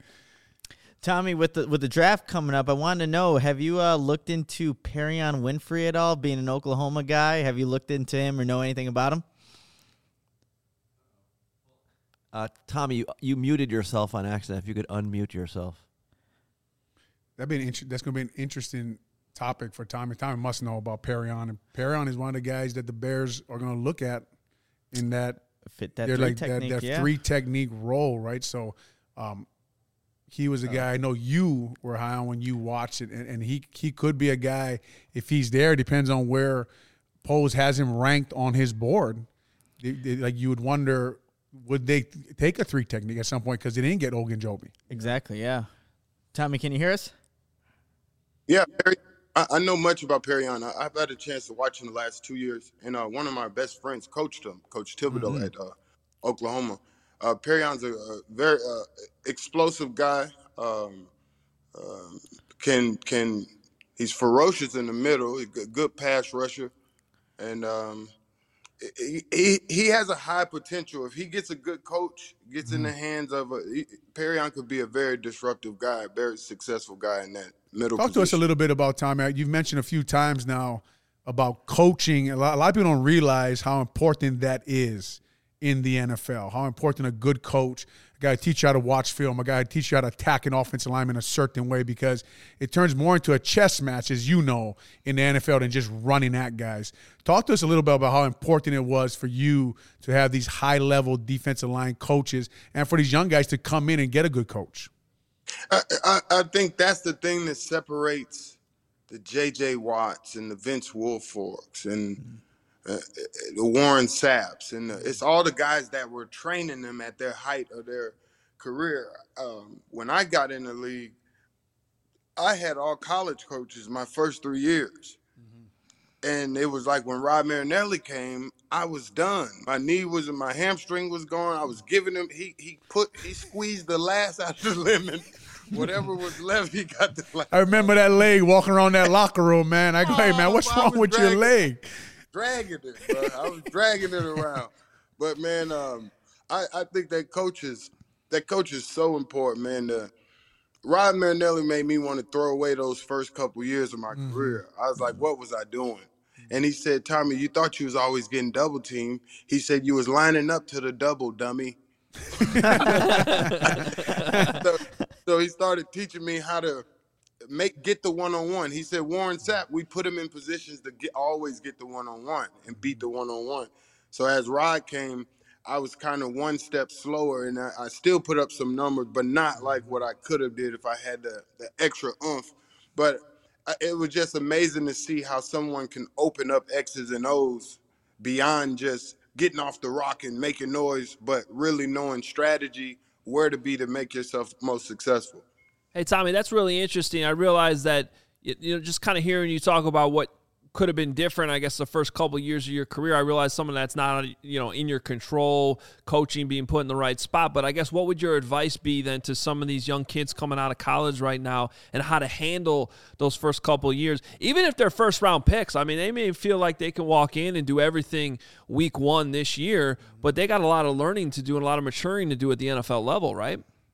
Tommy, with the with the draft coming up, I wanted to know, have you uh, looked into Perion Winfrey at all, being an Oklahoma guy? Have you looked into him or know anything about him? Uh, Tommy, you, you muted yourself on accident. If you could unmute yourself. That'd be an int- that's going to be an interesting topic for Tommy. Tommy must know about Perion. And Perion is one of the guys that the Bears are going to look at in that – fit that they're three like technique, that, that yeah. three technique role, right? So um, he was a guy I know you were high on when you watched it, and, and he he could be a guy if he's there. Depends on where Pose has him ranked on his board. They, they, like you would wonder, would they take a three technique at some point because they didn't get Ogunjobi? Exactly, yeah. Tommy, can you hear us? Yeah, Perry. I, I know much about Perion. I, I've had a chance to watch him the last two years, and uh, one of my best friends coached him, Coach Thibodeau mm-hmm. at uh, Oklahoma. Uh, Perion's a, a very uh, explosive guy. Um, um, can can he's ferocious in the middle. He's a good pass rusher, and um, he, he he has a high potential. If he gets a good coach, gets in the hands of a he, Perrion could be a very disruptive guy, a very successful guy in that middle Talk position. to us a little bit about Tommy. You've mentioned a few times now about coaching. A lot, a lot of people don't realize how important that is in the N F L, how important a good coach, a guy to teach you how to watch film, a guy to teach you how to attack an offensive lineman a certain way, because it turns more into a chess match, as you know, in the N F L than just running at guys. Talk to us a little bit about how important it was for you to have these high-level defensive line coaches and for these young guys to come in and get a good coach. I, I, I think that's the thing that separates the J J Watts and the Vince Wilforks and uh, the Warren Sapps, and the, it's all the guys that were training them at their height of their career. Um, when I got in the league, I had all college coaches my first three years. And it was like when Rod Marinelli came, I was done. My knee was, my hamstring was gone. I was giving him, he he put, he squeezed the last out of the lemon. Whatever was left, he got the last. I remember that leg walking around that locker room, man. I go, hey, man, what's Oh, wrong with dragging, your leg? Dragging it, bro. I was dragging it around. But, man, um, I, I think that coach is, that coach is so important, man. The, Rod Marinelli made me want to throw away those first couple years of my mm-hmm. career. I was like, what was I doing? And he said, Tommy, you thought you was always getting double teamed. He said, you was lining up to the double, dummy. so, so he started teaching me how to make get the one-on-one. He said, Warren Sapp, we put him in positions to get always get the one-on-one and beat the one-on-one. So as Rod came, I was kind of one step slower, and I, I still put up some numbers, but not like what I could have did if I had the, the extra oomph. But I, it was just amazing to see how someone can open up X's and O's beyond just getting off the rock and making noise, but really knowing strategy, where to be to make yourself most successful. Hey, Tommy, that's really interesting. I realized that, you know, just kind of hearing you talk about what could have been different, I guess, the first couple of years of your career, I realized something that's not, you know, in your control, coaching, being put in the right spot. But I guess what would your advice be then to some of these young kids coming out of college right now and how to handle those first couple of years, even if they're first round picks? I mean, they may feel like they can walk in and do everything week one this year, but they got a lot of learning to do and a lot of maturing to do at the N F L level, right?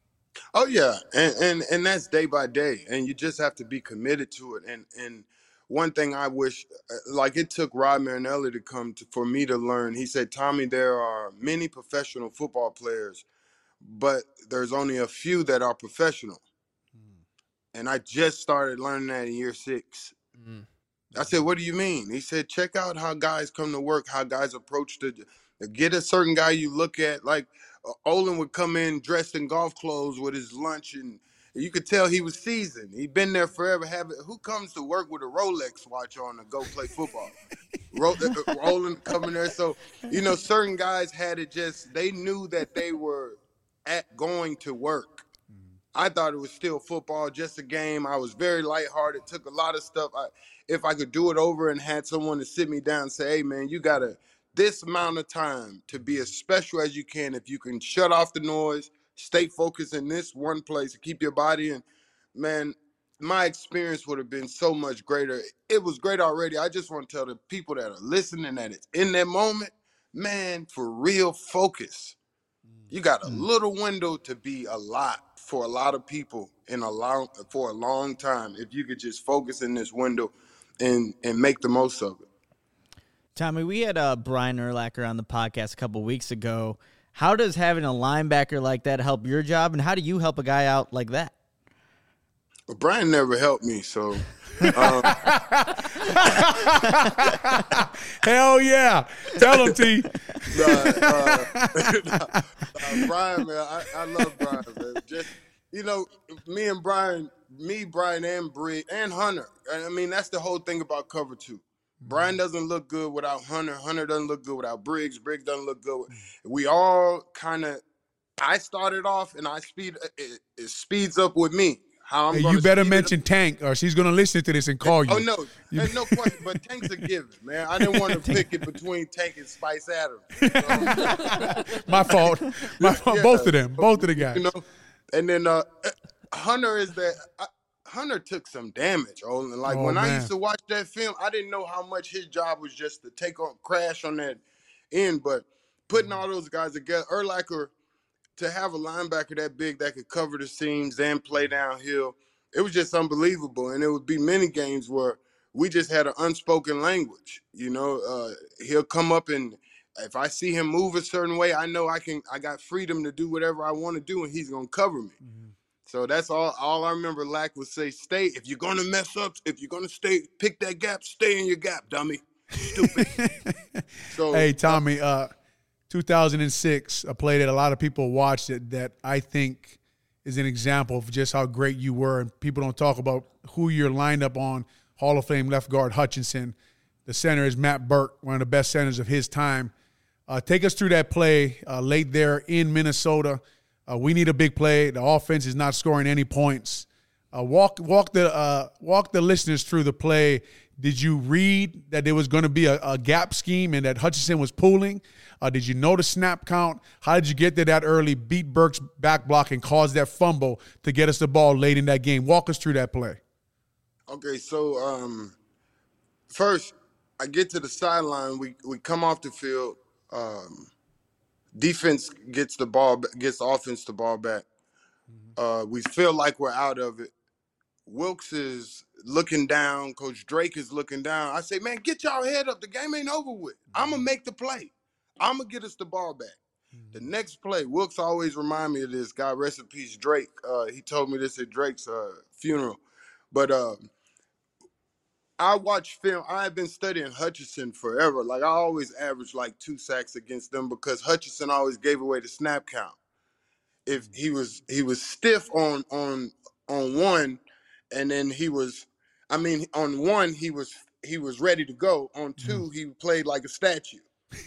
Oh yeah, and and and that's day by day, and you just have to be committed to it. And and one thing I wish, like it took Rod Marinelli to come to, for me to learn. He said, Tommy, there are many professional football players, but there's only a few that are professional. Mm. And I just started learning that in year six. Mm. I said, what do you mean? He said, check out how guys come to work, how guys approach the, get a certain guy you look at, like uh, Olin would come in dressed in golf clothes with his lunch, and you could tell he was seasoned. He'd been there forever. Have it. Who comes to work with a Rolex watch on to go play football? Ro- Olin coming there. So, you know, certain guys had it just, they knew that they were at going to work. I thought it was still football, just a game. I was very lighthearted, took a lot of stuff. I, if I could do it over and had someone to sit me down and say, hey, man, you got to this amount of time to be as special as you can. If you can shut off the noise, stay focused in this one place, and keep your body in, man, my experience would have been so much greater. It was great already. I just want to tell the people that are listening that it's in that moment, man, for real, focus. You got a little window to be a lot for a lot of people in a long for a long time. If you could just focus in this window and and make the most of it. Tommy, we had uh, Brian Urlacher on the podcast a couple weeks ago. How does having a linebacker like that help your job, and how do you help a guy out like that? Well, Brian never helped me, so. Um, Hell yeah. Tell him, T. uh, uh, uh, Brian, man, I, I love Brian, man. Just, you know, me and Brian, me, Brian, and Briggs, and Hunter. I mean, that's the whole thing about cover two. Brian doesn't look good without Hunter. Hunter doesn't look good without Briggs. Briggs doesn't look good. We all kind of, I started off, and I speed, it, it speeds up with me. How I'm hey, you better mention Tank, or she's going to listen to this and call you. Oh, no. There's no question. But Tank's a given, man. I didn't want to pick it between Tank and Spice Adams. So. My fault. My fault. Yeah, both of them. Both of the guys. You know? And then uh, Hunter is that uh, – Hunter took some damage. Oh, like, oh, when man. I used to watch that film, I didn't know how much his job was just to take on – crash on that in. But putting all those guys together, Urlacher, to have a linebacker that big that could cover the seams and play downhill, it was just unbelievable. And it would be many games where we just had an unspoken language. You know, uh, he'll come up and if I see him move a certain way, I know I can. I got freedom to do whatever I want to do, and he's gonna cover me. Mm-hmm. So that's all. All I remember Lack would say: "Stay. If you're gonna mess up, if you're gonna stay, pick that gap. Stay in your gap, dummy. Stupid." So hey, Tommy, uh, two thousand six, a play that a lot of people watched it that I think is an example of just how great you were, and people don't talk about who you're lined up on. Hall of Fame left guard Hutchinson. The center is Matt Burke, one of the best centers of his time. Uh, take us through that play uh, late there in Minnesota. Uh, we need a big play. The offense is not scoring any points. Uh, walk walk the uh, walk the listeners through the play. Did you read that there was going to be a, a gap scheme and that Hutchinson was pulling? Uh, did you know the snap count? How did you get there that early, beat Burke's back block, and cause that fumble to get us the ball late in that game? Walk us through that play. Okay, so um, first, I get to the sideline. We we come off the field. Um, defense gets the ball, gets the offense the ball back. Uh, we feel like we're out of it. Wilkes is looking down. Coach Drake is looking down. I say, man, get y'all head up. The game ain't over with. I'm going to make the play. I'm going to get us the ball back. The next play, Wilkes always remind me of this. God rest in peace, Drake. Uh, he told me this at Drake's uh, funeral. But uh, I watch film. I've been studying Hutchinson forever. Like, I always average like two sacks against them because Hutchinson always gave away the snap count. If he was he was stiff on on on one, and then he was, I mean, on one he was he was ready to go. On two, he played like a statue.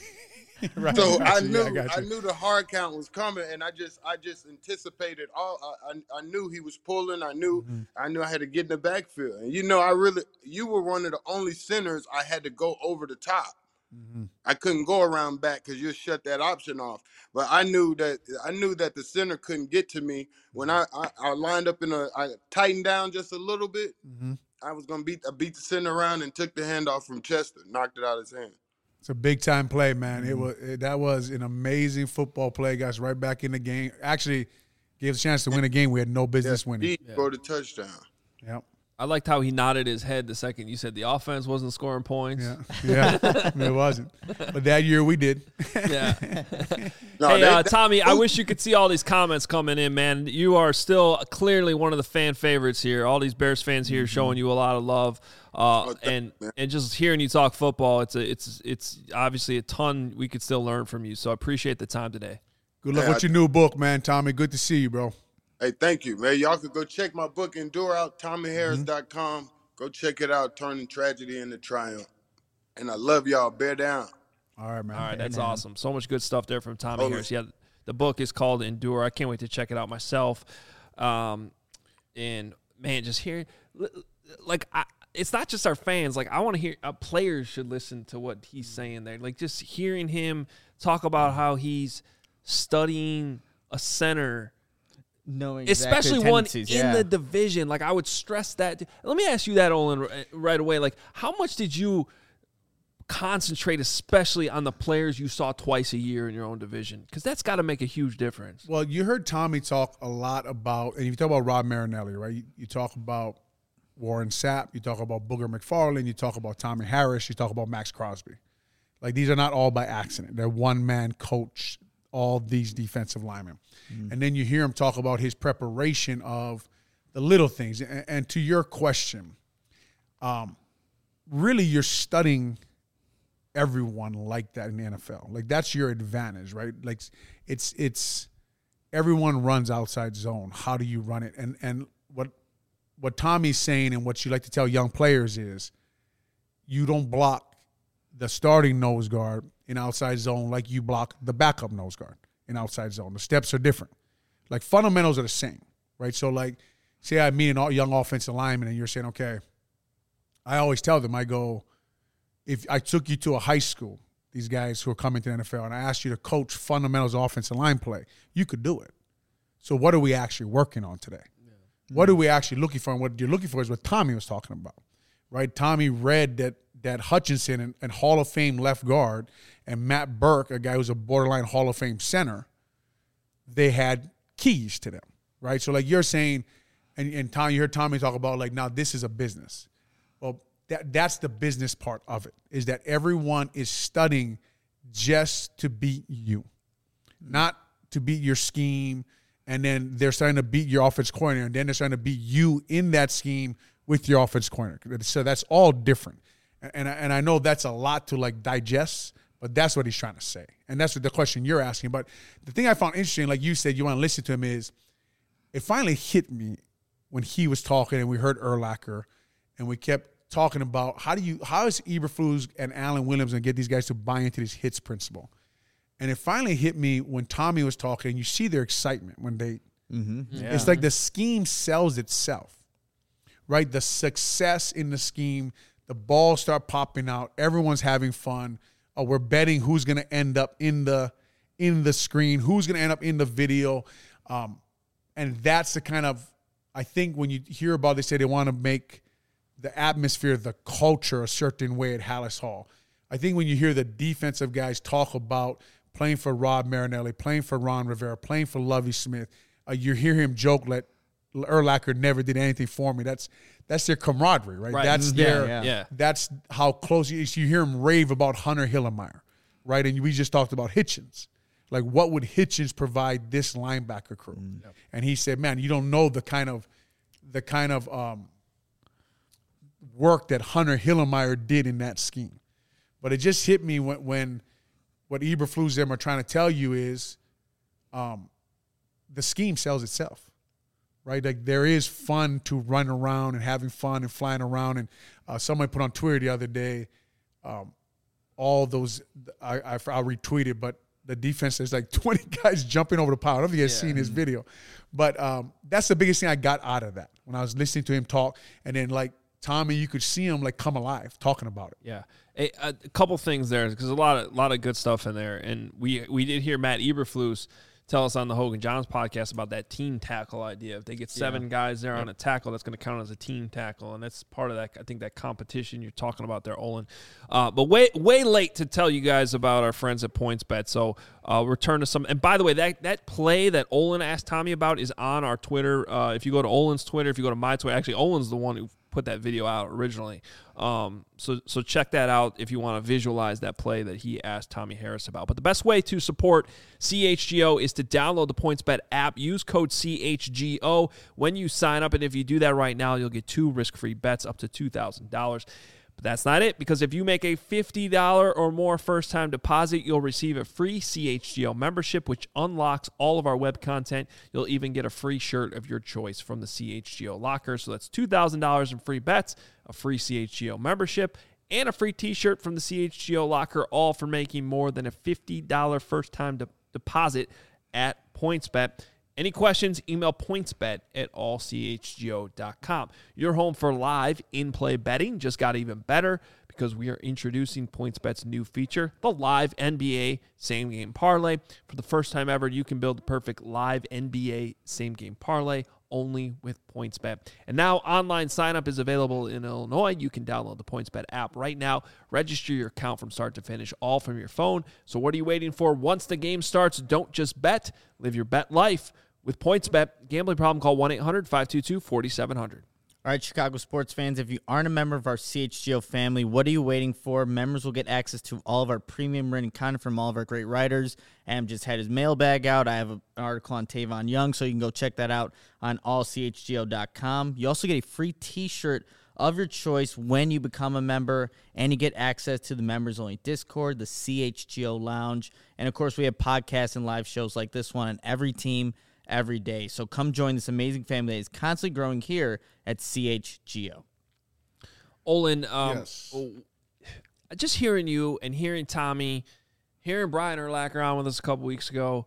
Right, so I, I knew yeah, I, I knew the hard count was coming, and I just I just anticipated all. I I, I knew he was pulling. I knew mm-hmm. I knew I had to get in the backfield. And you know, I really you were one of the only centers I had to go over the top. Mm-hmm. I couldn't go around back because you shut that option off. But I knew that I knew that the center couldn't get to me when I I, I lined up in a I tightened down just a little bit. Mm-hmm. I was gonna beat I beat the center around and took the handoff from Chester, knocked it out of his hand. It's a big time play, man. Mm-hmm. It was it, that was an amazing football play. Got us right back in the game. Actually, gave us a chance to win a game we had no business yeah, winning. He yeah. scored a touchdown. Yep. I liked how he nodded his head the second you said the offense wasn't scoring points. Yeah, yeah, it wasn't. But that year we did. Yeah. no, hey, they, uh, they, Tommy, I wish you could see all these comments coming in, man. You are still clearly one of the fan favorites here. All these Bears fans here mm-hmm. showing you a lot of love, uh, oh, and man. and just hearing you talk football, it's a, it's it's obviously a ton we could still learn from you. So I appreciate the time today. Good luck hey, with I, your new book, man, Tommy. Good to see you, bro. Hey, thank you, man. Y'all could go check my book, Endure out, Tommy Harris dot com. Mm-hmm. Go check it out, Turning Tragedy into Triumph. And I love y'all. Bear down. All right, man. All right, Bear that's down. awesome. So much good stuff there from Tommy oh, Harris. Yeah, the book is called Endure. I can't wait to check it out myself. Um, and, man, just hearing – like, I, it's not just our fans. Like, I want to hear uh, – players should listen to what he's saying there. Like, just hearing him talk about how he's studying a center – knowing especially exactly one in yeah. the division. Like, I would stress that. Let me ask you that, Olin, right away. Like, how much did you concentrate, especially on the players you saw twice a year in your own division? Because that's got to make a huge difference. Well, you heard Tommy talk a lot about, and you talk about Rob Marinelli, right? You, you talk about Warren Sapp, you talk about Booger McFarland, you talk about Tommy Harris, you talk about Max Crosby. Like, these are not all by accident. They're one-man coach, all these defensive linemen. Mm. And then you hear him talk about his preparation of the little things. And, and to your question, um, really you're studying everyone like that in the N F L. Like, that's your advantage, right? Like, it's it's everyone runs outside zone. How do you run it? And and what what Tommy's saying and what you like to tell young players is you don't block the starting nose guard in outside zone like you block the backup nose guard in outside zone. The steps are different. Like, fundamentals are the same, right? So, like, say I meet a young offensive lineman and you're saying, okay, I always tell them, I go, if I took you to a high school, these guys who are coming to the N F L, and I asked you to coach fundamentals offensive line play, you could do it. So what are we actually working on today? Yeah. What are we actually looking for? And what you're looking for is what Tommy was talking about, right? Tommy read that that Hutchinson and, and Hall of Fame left guard and Matt Burke, a guy who's a borderline Hall of Fame center, they had keys to them, right? So like you're saying, and, and Tom, you heard Tommy talk about like, now this is a business. Well, that that's the business part of it, is that everyone is studying just to beat you, not to beat your scheme. And then they're starting to beat your offense coordinator, and then they're starting to beat you in that scheme with your offense coordinator. So that's all different. And I, and I know that's a lot to like digest, but that's what he's trying to say. And that's what the question you're asking. But the thing I found interesting, like you said, you want to listen to him, is it finally hit me when he was talking and we heard Urlacher and we kept talking about how do you, how is Eberflus and Alan Williams going to get these guys to buy into this hits principle? And it finally hit me when Tommy was talking. You see their excitement when they Mm-hmm. Yeah. it's like the scheme sells itself, right? The success in the scheme, the balls start popping out. Everyone's having fun. Uh, we're betting who's going to end up in the in the screen, who's going to end up in the video. Um, and that's the kind of, I think when you hear about, they say they want to make the atmosphere, the culture a certain way at Hallis Hall. I think when you hear the defensive guys talk about playing for Rob Marinelli, playing for Ron Rivera, playing for Lovie Smith, uh, you hear him joke that Urlacher never did anything for me. That's that's their camaraderie, right? Right. That's Yeah, their yeah. Yeah. that's how close you, you hear him rave about Hunter Hillemeyer, right? And we just talked about Hitchens. Like, what would Hitchens provide this linebacker crew? Mm. And he said, man, you don't know the kind of the kind of um, work that Hunter Hillemeyer did in that scheme. But it just hit me when, when what Eberflus them are trying to tell you is um, the scheme sells itself, right? Like, there is fun to run around and having fun and flying around. And uh, somebody put on Twitter the other day, um, all those, I, I, I'll retweet it, but the defense, there's like twenty guys jumping over the pile. I don't know if you guys Yeah. seen his video. But um, that's the biggest thing I got out of that when I was listening to him talk. And then, like, Tommy, you could see him, like, come alive talking about it. Yeah, a, a couple things there because a lot of a lot of good stuff in there, and we we did hear Matt Eberflus tell us on the Hogan Johns podcast about that team tackle idea. If they get seven Yeah. guys there on a tackle, that's going to count as a team tackle, and that's part of that. I think that competition you're talking about there, Olin. Uh, but way way late to tell you guys about our friends at PointsBet. So uh, return to some. And by the way, that that play that Olin asked Tommy about is on our Twitter. Uh, if you go to Olin's Twitter, if you go to my Twitter, actually Olin's the one who put that video out originally. Um, so so check that out if you want to visualize that play that he asked Tommy Harris about. But the best way to support C H G O is to download the PointsBet app. Use code C H G O when you sign up, and if you do that right now, you'll get two risk-free bets up to two thousand dollars. But that's not it, because if you make a fifty dollars or more first-time deposit, you'll receive a free C H G O membership, which unlocks all of our web content. You'll even get a free shirt of your choice from the C H G O locker. So that's two thousand dollars in free bets, a free C H G O membership, and a free t-shirt from the C H G O locker, all for making more than a fifty dollars first-time de- deposit at PointsBet. Any questions, email pointsbet at all c h g o dot com. Your home for live in-play betting just got even better because we are introducing PointsBet's new feature, the Live N B A Same Game Parlay. For the first time ever, you can build the perfect live N B A Same Game Parlay only with PointsBet. And now online sign-up is available in Illinois. You can download the PointsBet app right now. Register your account from start to finish, all from your phone. So what are you waiting for? Once the game starts, don't just bet. Live your bet life. With PointsBet, gambling problem, call one eight hundred five two two four seven zero zero. All right, Chicago sports fans, if you aren't a member of our C H G O family, what are you waiting for? Members will get access to all of our premium written content from all of our great writers. Am just had his mailbag out. I have an article on Tavon Young, so you can go check that out on all c h g o dot com. You also get a free t-shirt of your choice when you become a member, and you get access to the members-only Discord, the C H G O Lounge, and, of course, we have podcasts and live shows like this one on every team every day. So come join this amazing family that is constantly growing here at C H G O. Olin, um, Yes. just hearing you and hearing Tommy, hearing Brian Urlacher on with us a couple weeks ago,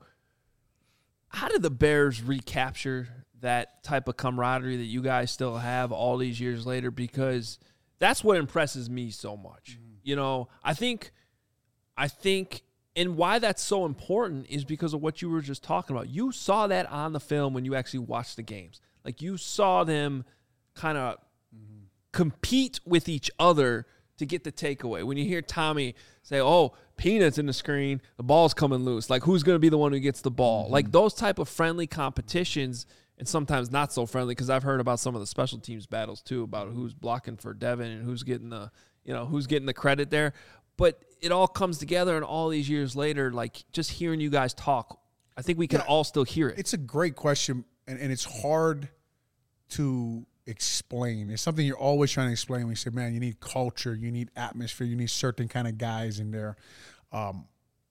how did the Bears recapture that type of camaraderie that you guys still have all these years later? Because that's what impresses me so much. Mm-hmm. You know, I think, I think, and why that's so important is because of what you were just talking about. You saw that on the film when you actually watched the games. Like, you saw them kind of mm-hmm. compete with each other to to get the takeaway. When you hear Tommy say, oh, Peanut's in the screen, the ball's coming loose. Like, who's going to be the one who gets the ball? Mm-hmm. Like, those type of friendly competitions, and sometimes not so friendly, because I've heard about some of the special teams battles, too, about who's blocking for Devin and who's getting the, you know, who's getting the credit there. But it all comes together, and all these years later, like, just hearing you guys talk, I think we can yeah, all still hear it. It's a great question, and, and it's hard to explain. It's something you're always trying to explain when you say, man, you need culture, you need atmosphere, you need certain kind of guys in there. Um,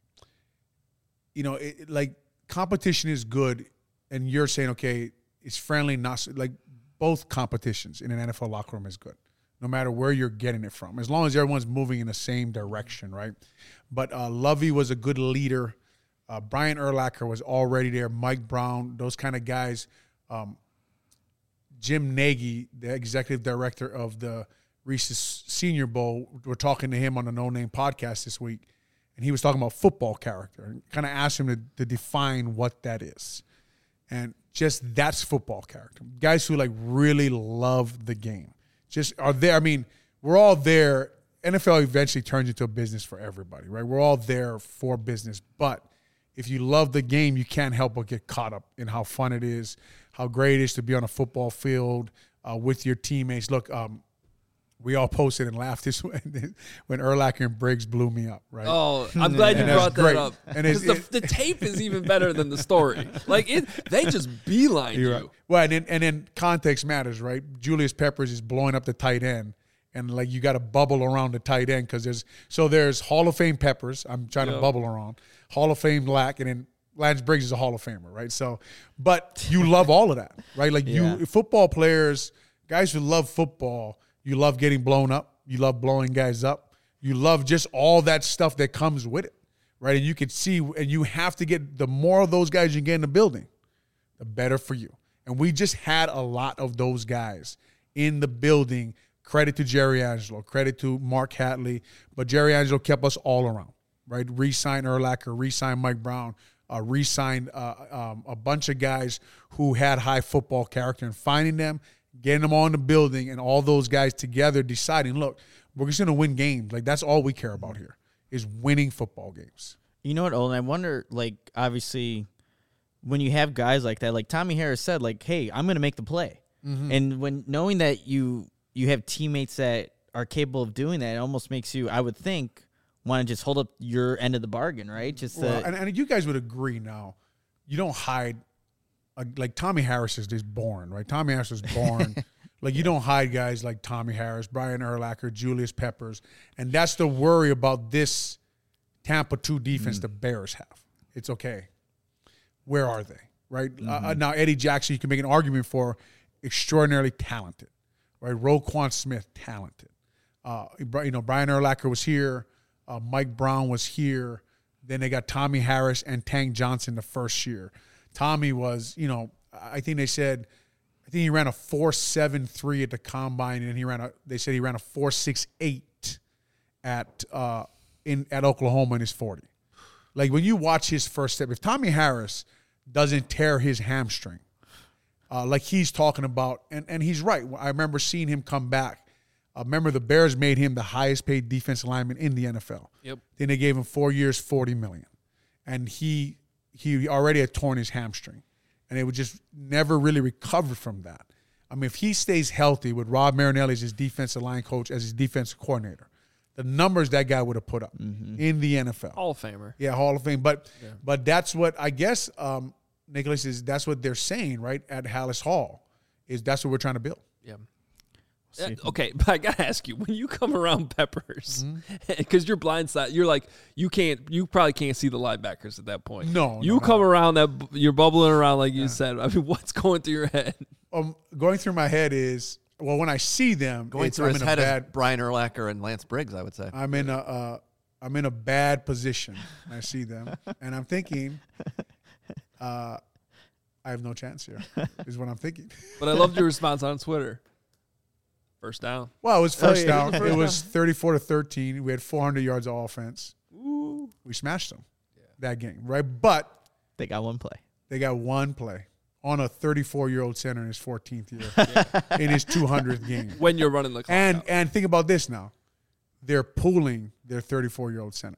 you know, it, like, competition is good, and you're saying, okay, it's friendly, not like both competitions in an N F L locker room is good, no matter where you're getting it from, as long as everyone's moving in the same direction, right? But uh, Lovey was a good leader. Uh, Brian Urlacher was already there. Mike Brown, those kind of guys. Um, Jim Nagy, the executive director of the Reese's Senior Bowl, we're talking to him on the No Name podcast this week, and he was talking about football character and kind of asked him to, to define what that is. And just that's football character. Guys who, like, really love the game. Just are there. I mean, we're all there. N F L eventually turns into a business for everybody, right? We're all there for business. But if you love the game, you can't help but get caught up in how fun it is, how great it is to be on a football field uh, with your teammates. Look, um, we all posted and laughed this when, when Urlacher and Briggs blew me up, right? Oh, I'm glad you and brought that great. up. And it's, the, the tape is even better than the story. Like, it, they just beeline you. Right. Well, and then, and then context matters, right? Julius Peppers is blowing up the tight end, and, like, you got to bubble around the tight end because there's – so there's Hall of Fame Peppers. I'm trying yep. to bubble around. Hall of Fame Lack, and then Lance Briggs is a Hall of Famer, right? So, but you love all of that, right? Like, yeah. you football players, guys who love football, you love getting blown up. You love blowing guys up. You love just all that stuff that comes with it, right? And you can see, and you have to get, the more of those guys you get in the building, the better for you. And we just had a lot of those guys in the building. Credit to Jerry Angelo, credit to Mark Hatley, but Jerry Angelo kept us all around, right? Re-signed Urlacher, re-signed Mike Brown, uh, re-signed uh, um, a bunch of guys who had high football character, and finding them, getting them all in the building, and all those guys together deciding, look, we're just going to win games. Like, that's all we care about here is winning football games. You know what, Olin? I wonder, like, obviously, when you have guys like that, like Tommy Harris said, like, hey, I'm going to make the play. Mm-hmm. And when knowing that you you have teammates that are capable of doing that, it almost makes you, I would think, want to just hold up your end of the bargain, right? Just well, to, and, and you guys would agree now, you don't hide. Uh, like, Tommy Harris is just born, right? Tommy Harris is born. Like, you don't hide guys like Tommy Harris, Brian Urlacher, Julius Peppers. And that's the worry about this Tampa two defense mm. the Bears have. It's okay. Where are they, right? Mm-hmm. Uh, now, Eddie Jackson, you can make an argument for, extraordinarily talented, right? Roquan Smith, talented. Uh, you know, Brian Urlacher was here. Uh, Mike Brown was here. Then they got Tommy Harris and Tank Johnson the first year. Tommy was, you know, I think they said, I think he ran a four seven three at the combine, and he ran a. They said he ran a four six eight at uh, in at Oklahoma in his forty. Like, when you watch his first step, if Tommy Harris doesn't tear his hamstring, uh, like he's talking about, and and he's right. I remember seeing him come back. Uh, remember, the Bears made him the highest paid defensive lineman in the N F L. Yep. Then they gave him four years, forty million dollars, and he. He already had torn his hamstring, and it would just never really recover from that. I mean, if he stays healthy with Rob Marinelli as his defensive line coach, as his defensive coordinator, the numbers that guy would have put up mm-hmm. in the N F L. Hall of Famer. Yeah, Hall of Fame. But yeah. but that's what, I guess, um, Nicholas, is that's what they're saying, right, at Hallis Hall, is that's what we're trying to build. Yeah. Uh, okay, but I gotta ask you, when you come around Peppers, because mm-hmm. you're blindside, you're like, you can't, you probably can't see the linebackers at that point. No, you no, come no. around that, you're bubbling around like you yeah. said. I mean, what's going through your head? Um, going through my head is, well, when I see them, going it's, through I'm his in a head bad, is Brian Urlacher and Lance Briggs, I would say. I'm in a, uh, I'm in a bad position. I see them, and I'm thinking, uh, I have no chance here. Is what I'm thinking. But I loved your response on Twitter. First down. Well, it was first oh, yeah. down. First it was thirty-four to thirteen. We had four hundred yards of offense. Ooh. We smashed them yeah. that game, right? But they got one play. They got one play on a thirty-four-year-old center in his fourteenth year, yeah. in his two hundredth game. When you're running the clock and out. and think about this now. they're pulling their thirty-four-year-old center.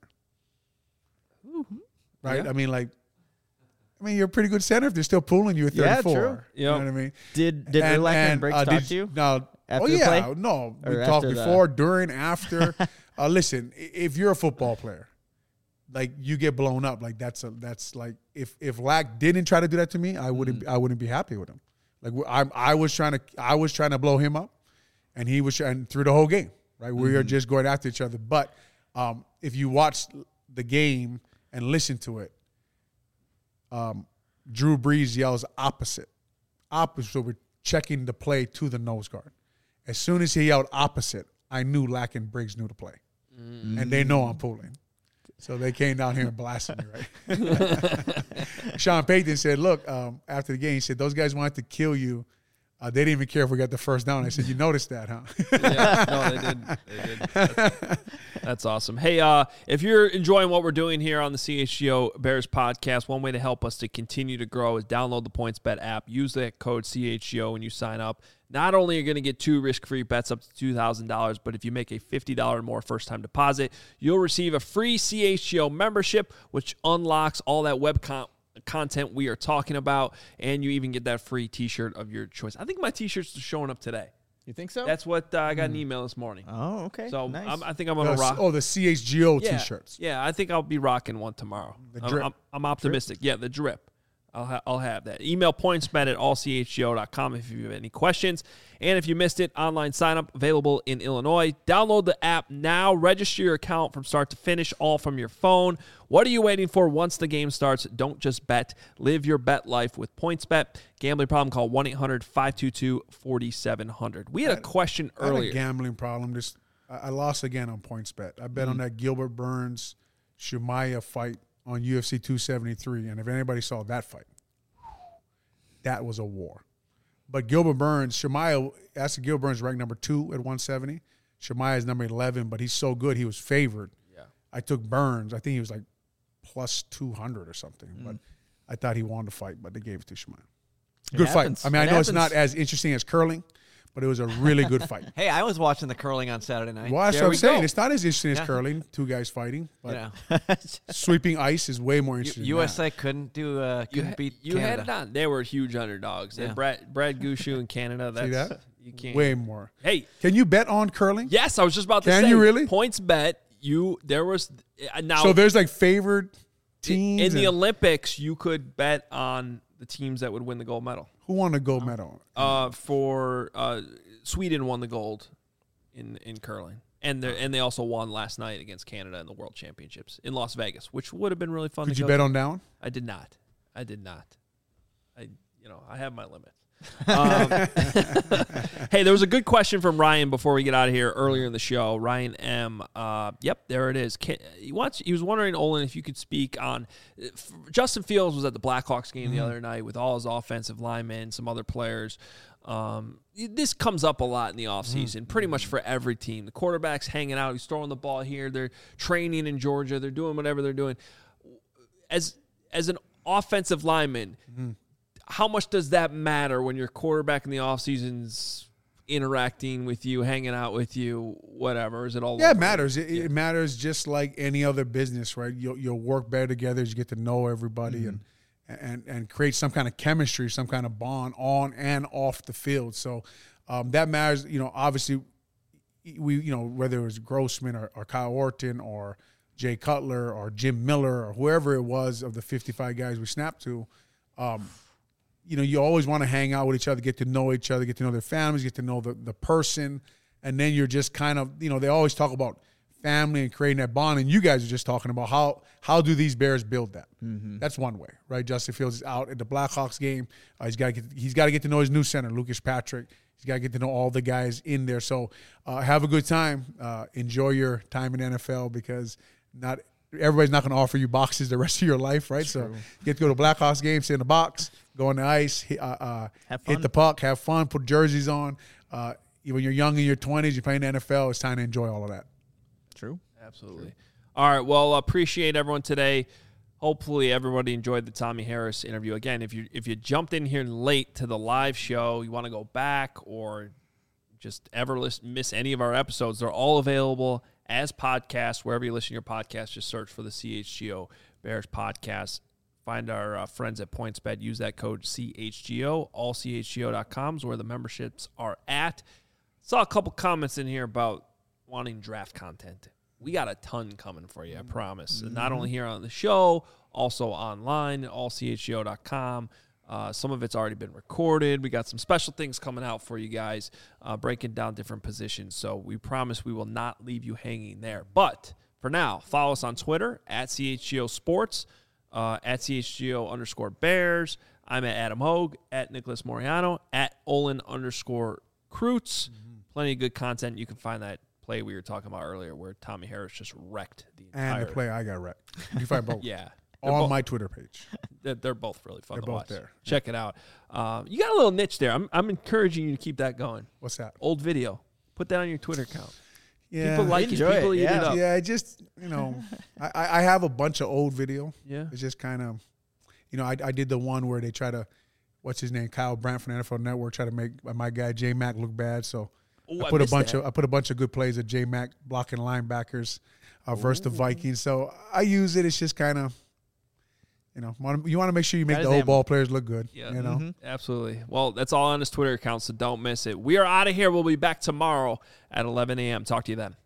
Right? Yeah. I mean, like, I mean, you're a pretty good center if they're still pulling you at Yeah, thurty-four. true. You know Yep. what I mean? Did did And- Urlacher and and, Briggs uh, talk did- to you? No. After oh, the yeah. play? No. We Or talked after the- before, during, after. uh, listen, i- if you're a football player, like, you get blown up. Like, that's a, that's like, if, if Lack didn't try to do that to me, I wouldn't, Mm. I wouldn't be happy with him. Like, I, I was trying to, I was trying to blow him up, and he was trying through the whole game, right? We Mm-hmm. were just going after each other. But um, if you watch the game and listen to it, um, Drew Brees yells opposite. Opposite. So we're checking the play to the nose guard. As soon as he yelled opposite, I knew Lack and Briggs knew the play. Mm. And they know I'm pulling. So they came down here and blasted me, right? Sean Payton said, look, um, after the game, he said, those guys wanted to kill you. Uh, they didn't even care if we got the first down. I said, you noticed that, huh? Yeah, no, they did. They did. That's, that's awesome. Hey, uh, if you're enjoying what we're doing here on the C H G O Bears podcast, one way to help us to continue to grow is download the PointsBet app. Use that code C H G O when you sign up. Not only are you going to get two risk-free bets up to two thousand dollars, but if you make a fifty dollars or more first-time deposit, you'll receive a free C H G O membership, which unlocks all that web con- content we are talking about, and you even get that free T-shirt of your choice. I think my T-shirts are showing up today. You think so? That's what uh, I got an email this morning. oh, okay. So nice. I'm, I think I'm going to The- rock. oh, the C H G O yeah, T-shirts. Yeah, I think I'll be rocking one tomorrow. The I'm- drip. I'm, I'm optimistic. Yeah, the drip. I'll, ha- I'll have that. Email pointsbet at all c h g o dot com if you have any questions. And if you missed it, online sign up available in Illinois. Download the app now. Register your account from start to finish, all from your phone. What are you waiting for once the game starts? Don't just bet. Live your bet life with PointsBet. Gambling problem, call one eight hundred five two two four seven zero zero. We had a question I had earlier. a gambling problem. Just I, I lost again on PointsBet. I bet on that Gilbert Burns Shumaya fight on U F C two seventy-three, and if anybody saw that fight, that was a war. But Gilbert Burns, Shumaya, that's Gilbert Burns ranked number two at one seventy. Shumaya is number eleven, but he's so good he was favored. Yeah. I took Burns. I think he was like plus two hundred or something. But I thought he won the fight, but they gave it to Shumaya. It Good happens. fight. I mean, I It know it's happens. not as interesting as curling, but it was a really good fight. Hey, I was watching the curling on Saturday night. Well, that's There what we I'm saying. go. It's not as interesting as Yeah. curling, two guys fighting, but You know, sweeping ice is way more U- interesting. U S A than couldn't do uh, You, couldn't ha- beat you had Canada. it on. They were huge underdogs. Yeah. And Brad Brad Gushu in Canada. That's, that? You that. can't. Way more. Hey, Can you bet on curling? yes, I was just about to Can say. you really? Points bet. You there was uh, now So there's like favored in, teams. in the and Olympics. You could bet on the teams that would win the gold medal. who won the gold medal? Uh, for uh, Sweden won the gold in in curling, and they and they also won last night against Canada in the World Championships in Las Vegas, which would have been really fun. Could to you go bet to. on down? I did not. I did not. I, you know, I have my limits. Um, hey, there was a good question from Ryan before we get out of here earlier in the show. Ryan M. Uh, yep, there it is. Can, he wants. He was wondering, Olin, if you could speak on. If Justin Fields was at the Blackhawks game the other night with all his offensive linemen, some other players. Um, this comes up a lot in the offseason, pretty much for every team. The quarterback's hanging out. He's throwing the ball here. They're training in Georgia. They're doing whatever they're doing. As as an offensive lineman, how much does that matter when your quarterback in the offseason's interacting with you, hanging out with you, whatever? Is it all Yeah, it over? matters. It, it matters just like any other business, right? You'll, you'll work better together as you get to know everybody and, and and create some kind of chemistry, some kind of bond on and off the field. So um, that matters. You know, obviously, we you know whether it was Grossman or, or Kyle Orton or Jay Cutler or Jim Miller or whoever it was of the fifty-five guys we snapped to. Um, you know, you always want to hang out with each other, get to know each other, get to know their families, get to know the, the person. And then you're just kind of, you know, they always talk about family and creating that bond. And you guys are just talking about how how do these Bears build that? Mm-hmm. That's one way, right? Justin Fields is out at the Blackhawks game. Uh, he's got to get he's got to get to know his new center, Lucas Patrick. He's got to get to know all the guys in there. So uh, have a good time. Uh, enjoy your time in the N F L because not everybody's not going to offer you boxes the rest of your life, right? So you get to go to Blackhawks games, sit in the box, go on the ice, hit, uh, uh, Have fun. hit the puck, have fun, put jerseys on. Uh, when you're young in your twenties, you're playing the N F L, it's time to enjoy all of that. True. Absolutely. All right. Well, appreciate everyone today. Hopefully, everybody enjoyed the Tommy Harris interview. Again, if you if you jumped in here late to the live show, you want to go back or just ever list, miss any of our episodes, they're all available as podcasts. Wherever you listen to your podcast, just search for the C H G O Bears podcast. Find our uh, friends at PointsBet. Use that code C H G O. all C H G O dot com is where the memberships are at. Saw a couple comments in here about wanting draft content. We got a ton coming for you, I promise. Mm-hmm. Not only here on the show, also online, all C H G O dot com. Uh, some of it's already been recorded. We got some special things coming out for you guys, uh, breaking down different positions. So we promise we will not leave you hanging there. But for now, follow us on Twitter, at C H G O Sports, uh, at C H G O underscore Bears. I'm at Adam Hogue, at Nicholas Moriano, at Olin underscore Kreutz. Mm-hmm. Plenty of good content. You can find that play we were talking about earlier where Tommy Harris just wrecked the entire. And the play I got wrecked. You find both. Yeah. On both, my Twitter page. They're, they're both really fun They're to both watch. there. Check it out. Um, you got a little niche there. I'm, I'm encouraging you to keep that going. What's that? Old video. Put that on your Twitter account. Yeah. People like Enjoy it. People it, eat yeah. it up. Yeah, I just, you know, I, I have a bunch of old video. Yeah. It's just kind of, you know, I, I did the one where they try to, what's his name, Kyle Brandt from the N F L Network, try to make my guy J Mac look bad. So Ooh, I I put a missed bunch that. of I put a bunch of good plays of J Mac blocking linebackers uh, versus the Vikings. So I use it. It's just kind of, you know, wanna, you want to make sure you make That the is old ammo. ball players look good. Yeah. You know. Mm-hmm. Absolutely. Well, that's all on his Twitter account, so don't miss it. We are out of here. We'll be back tomorrow at eleven a.m. Talk to you then.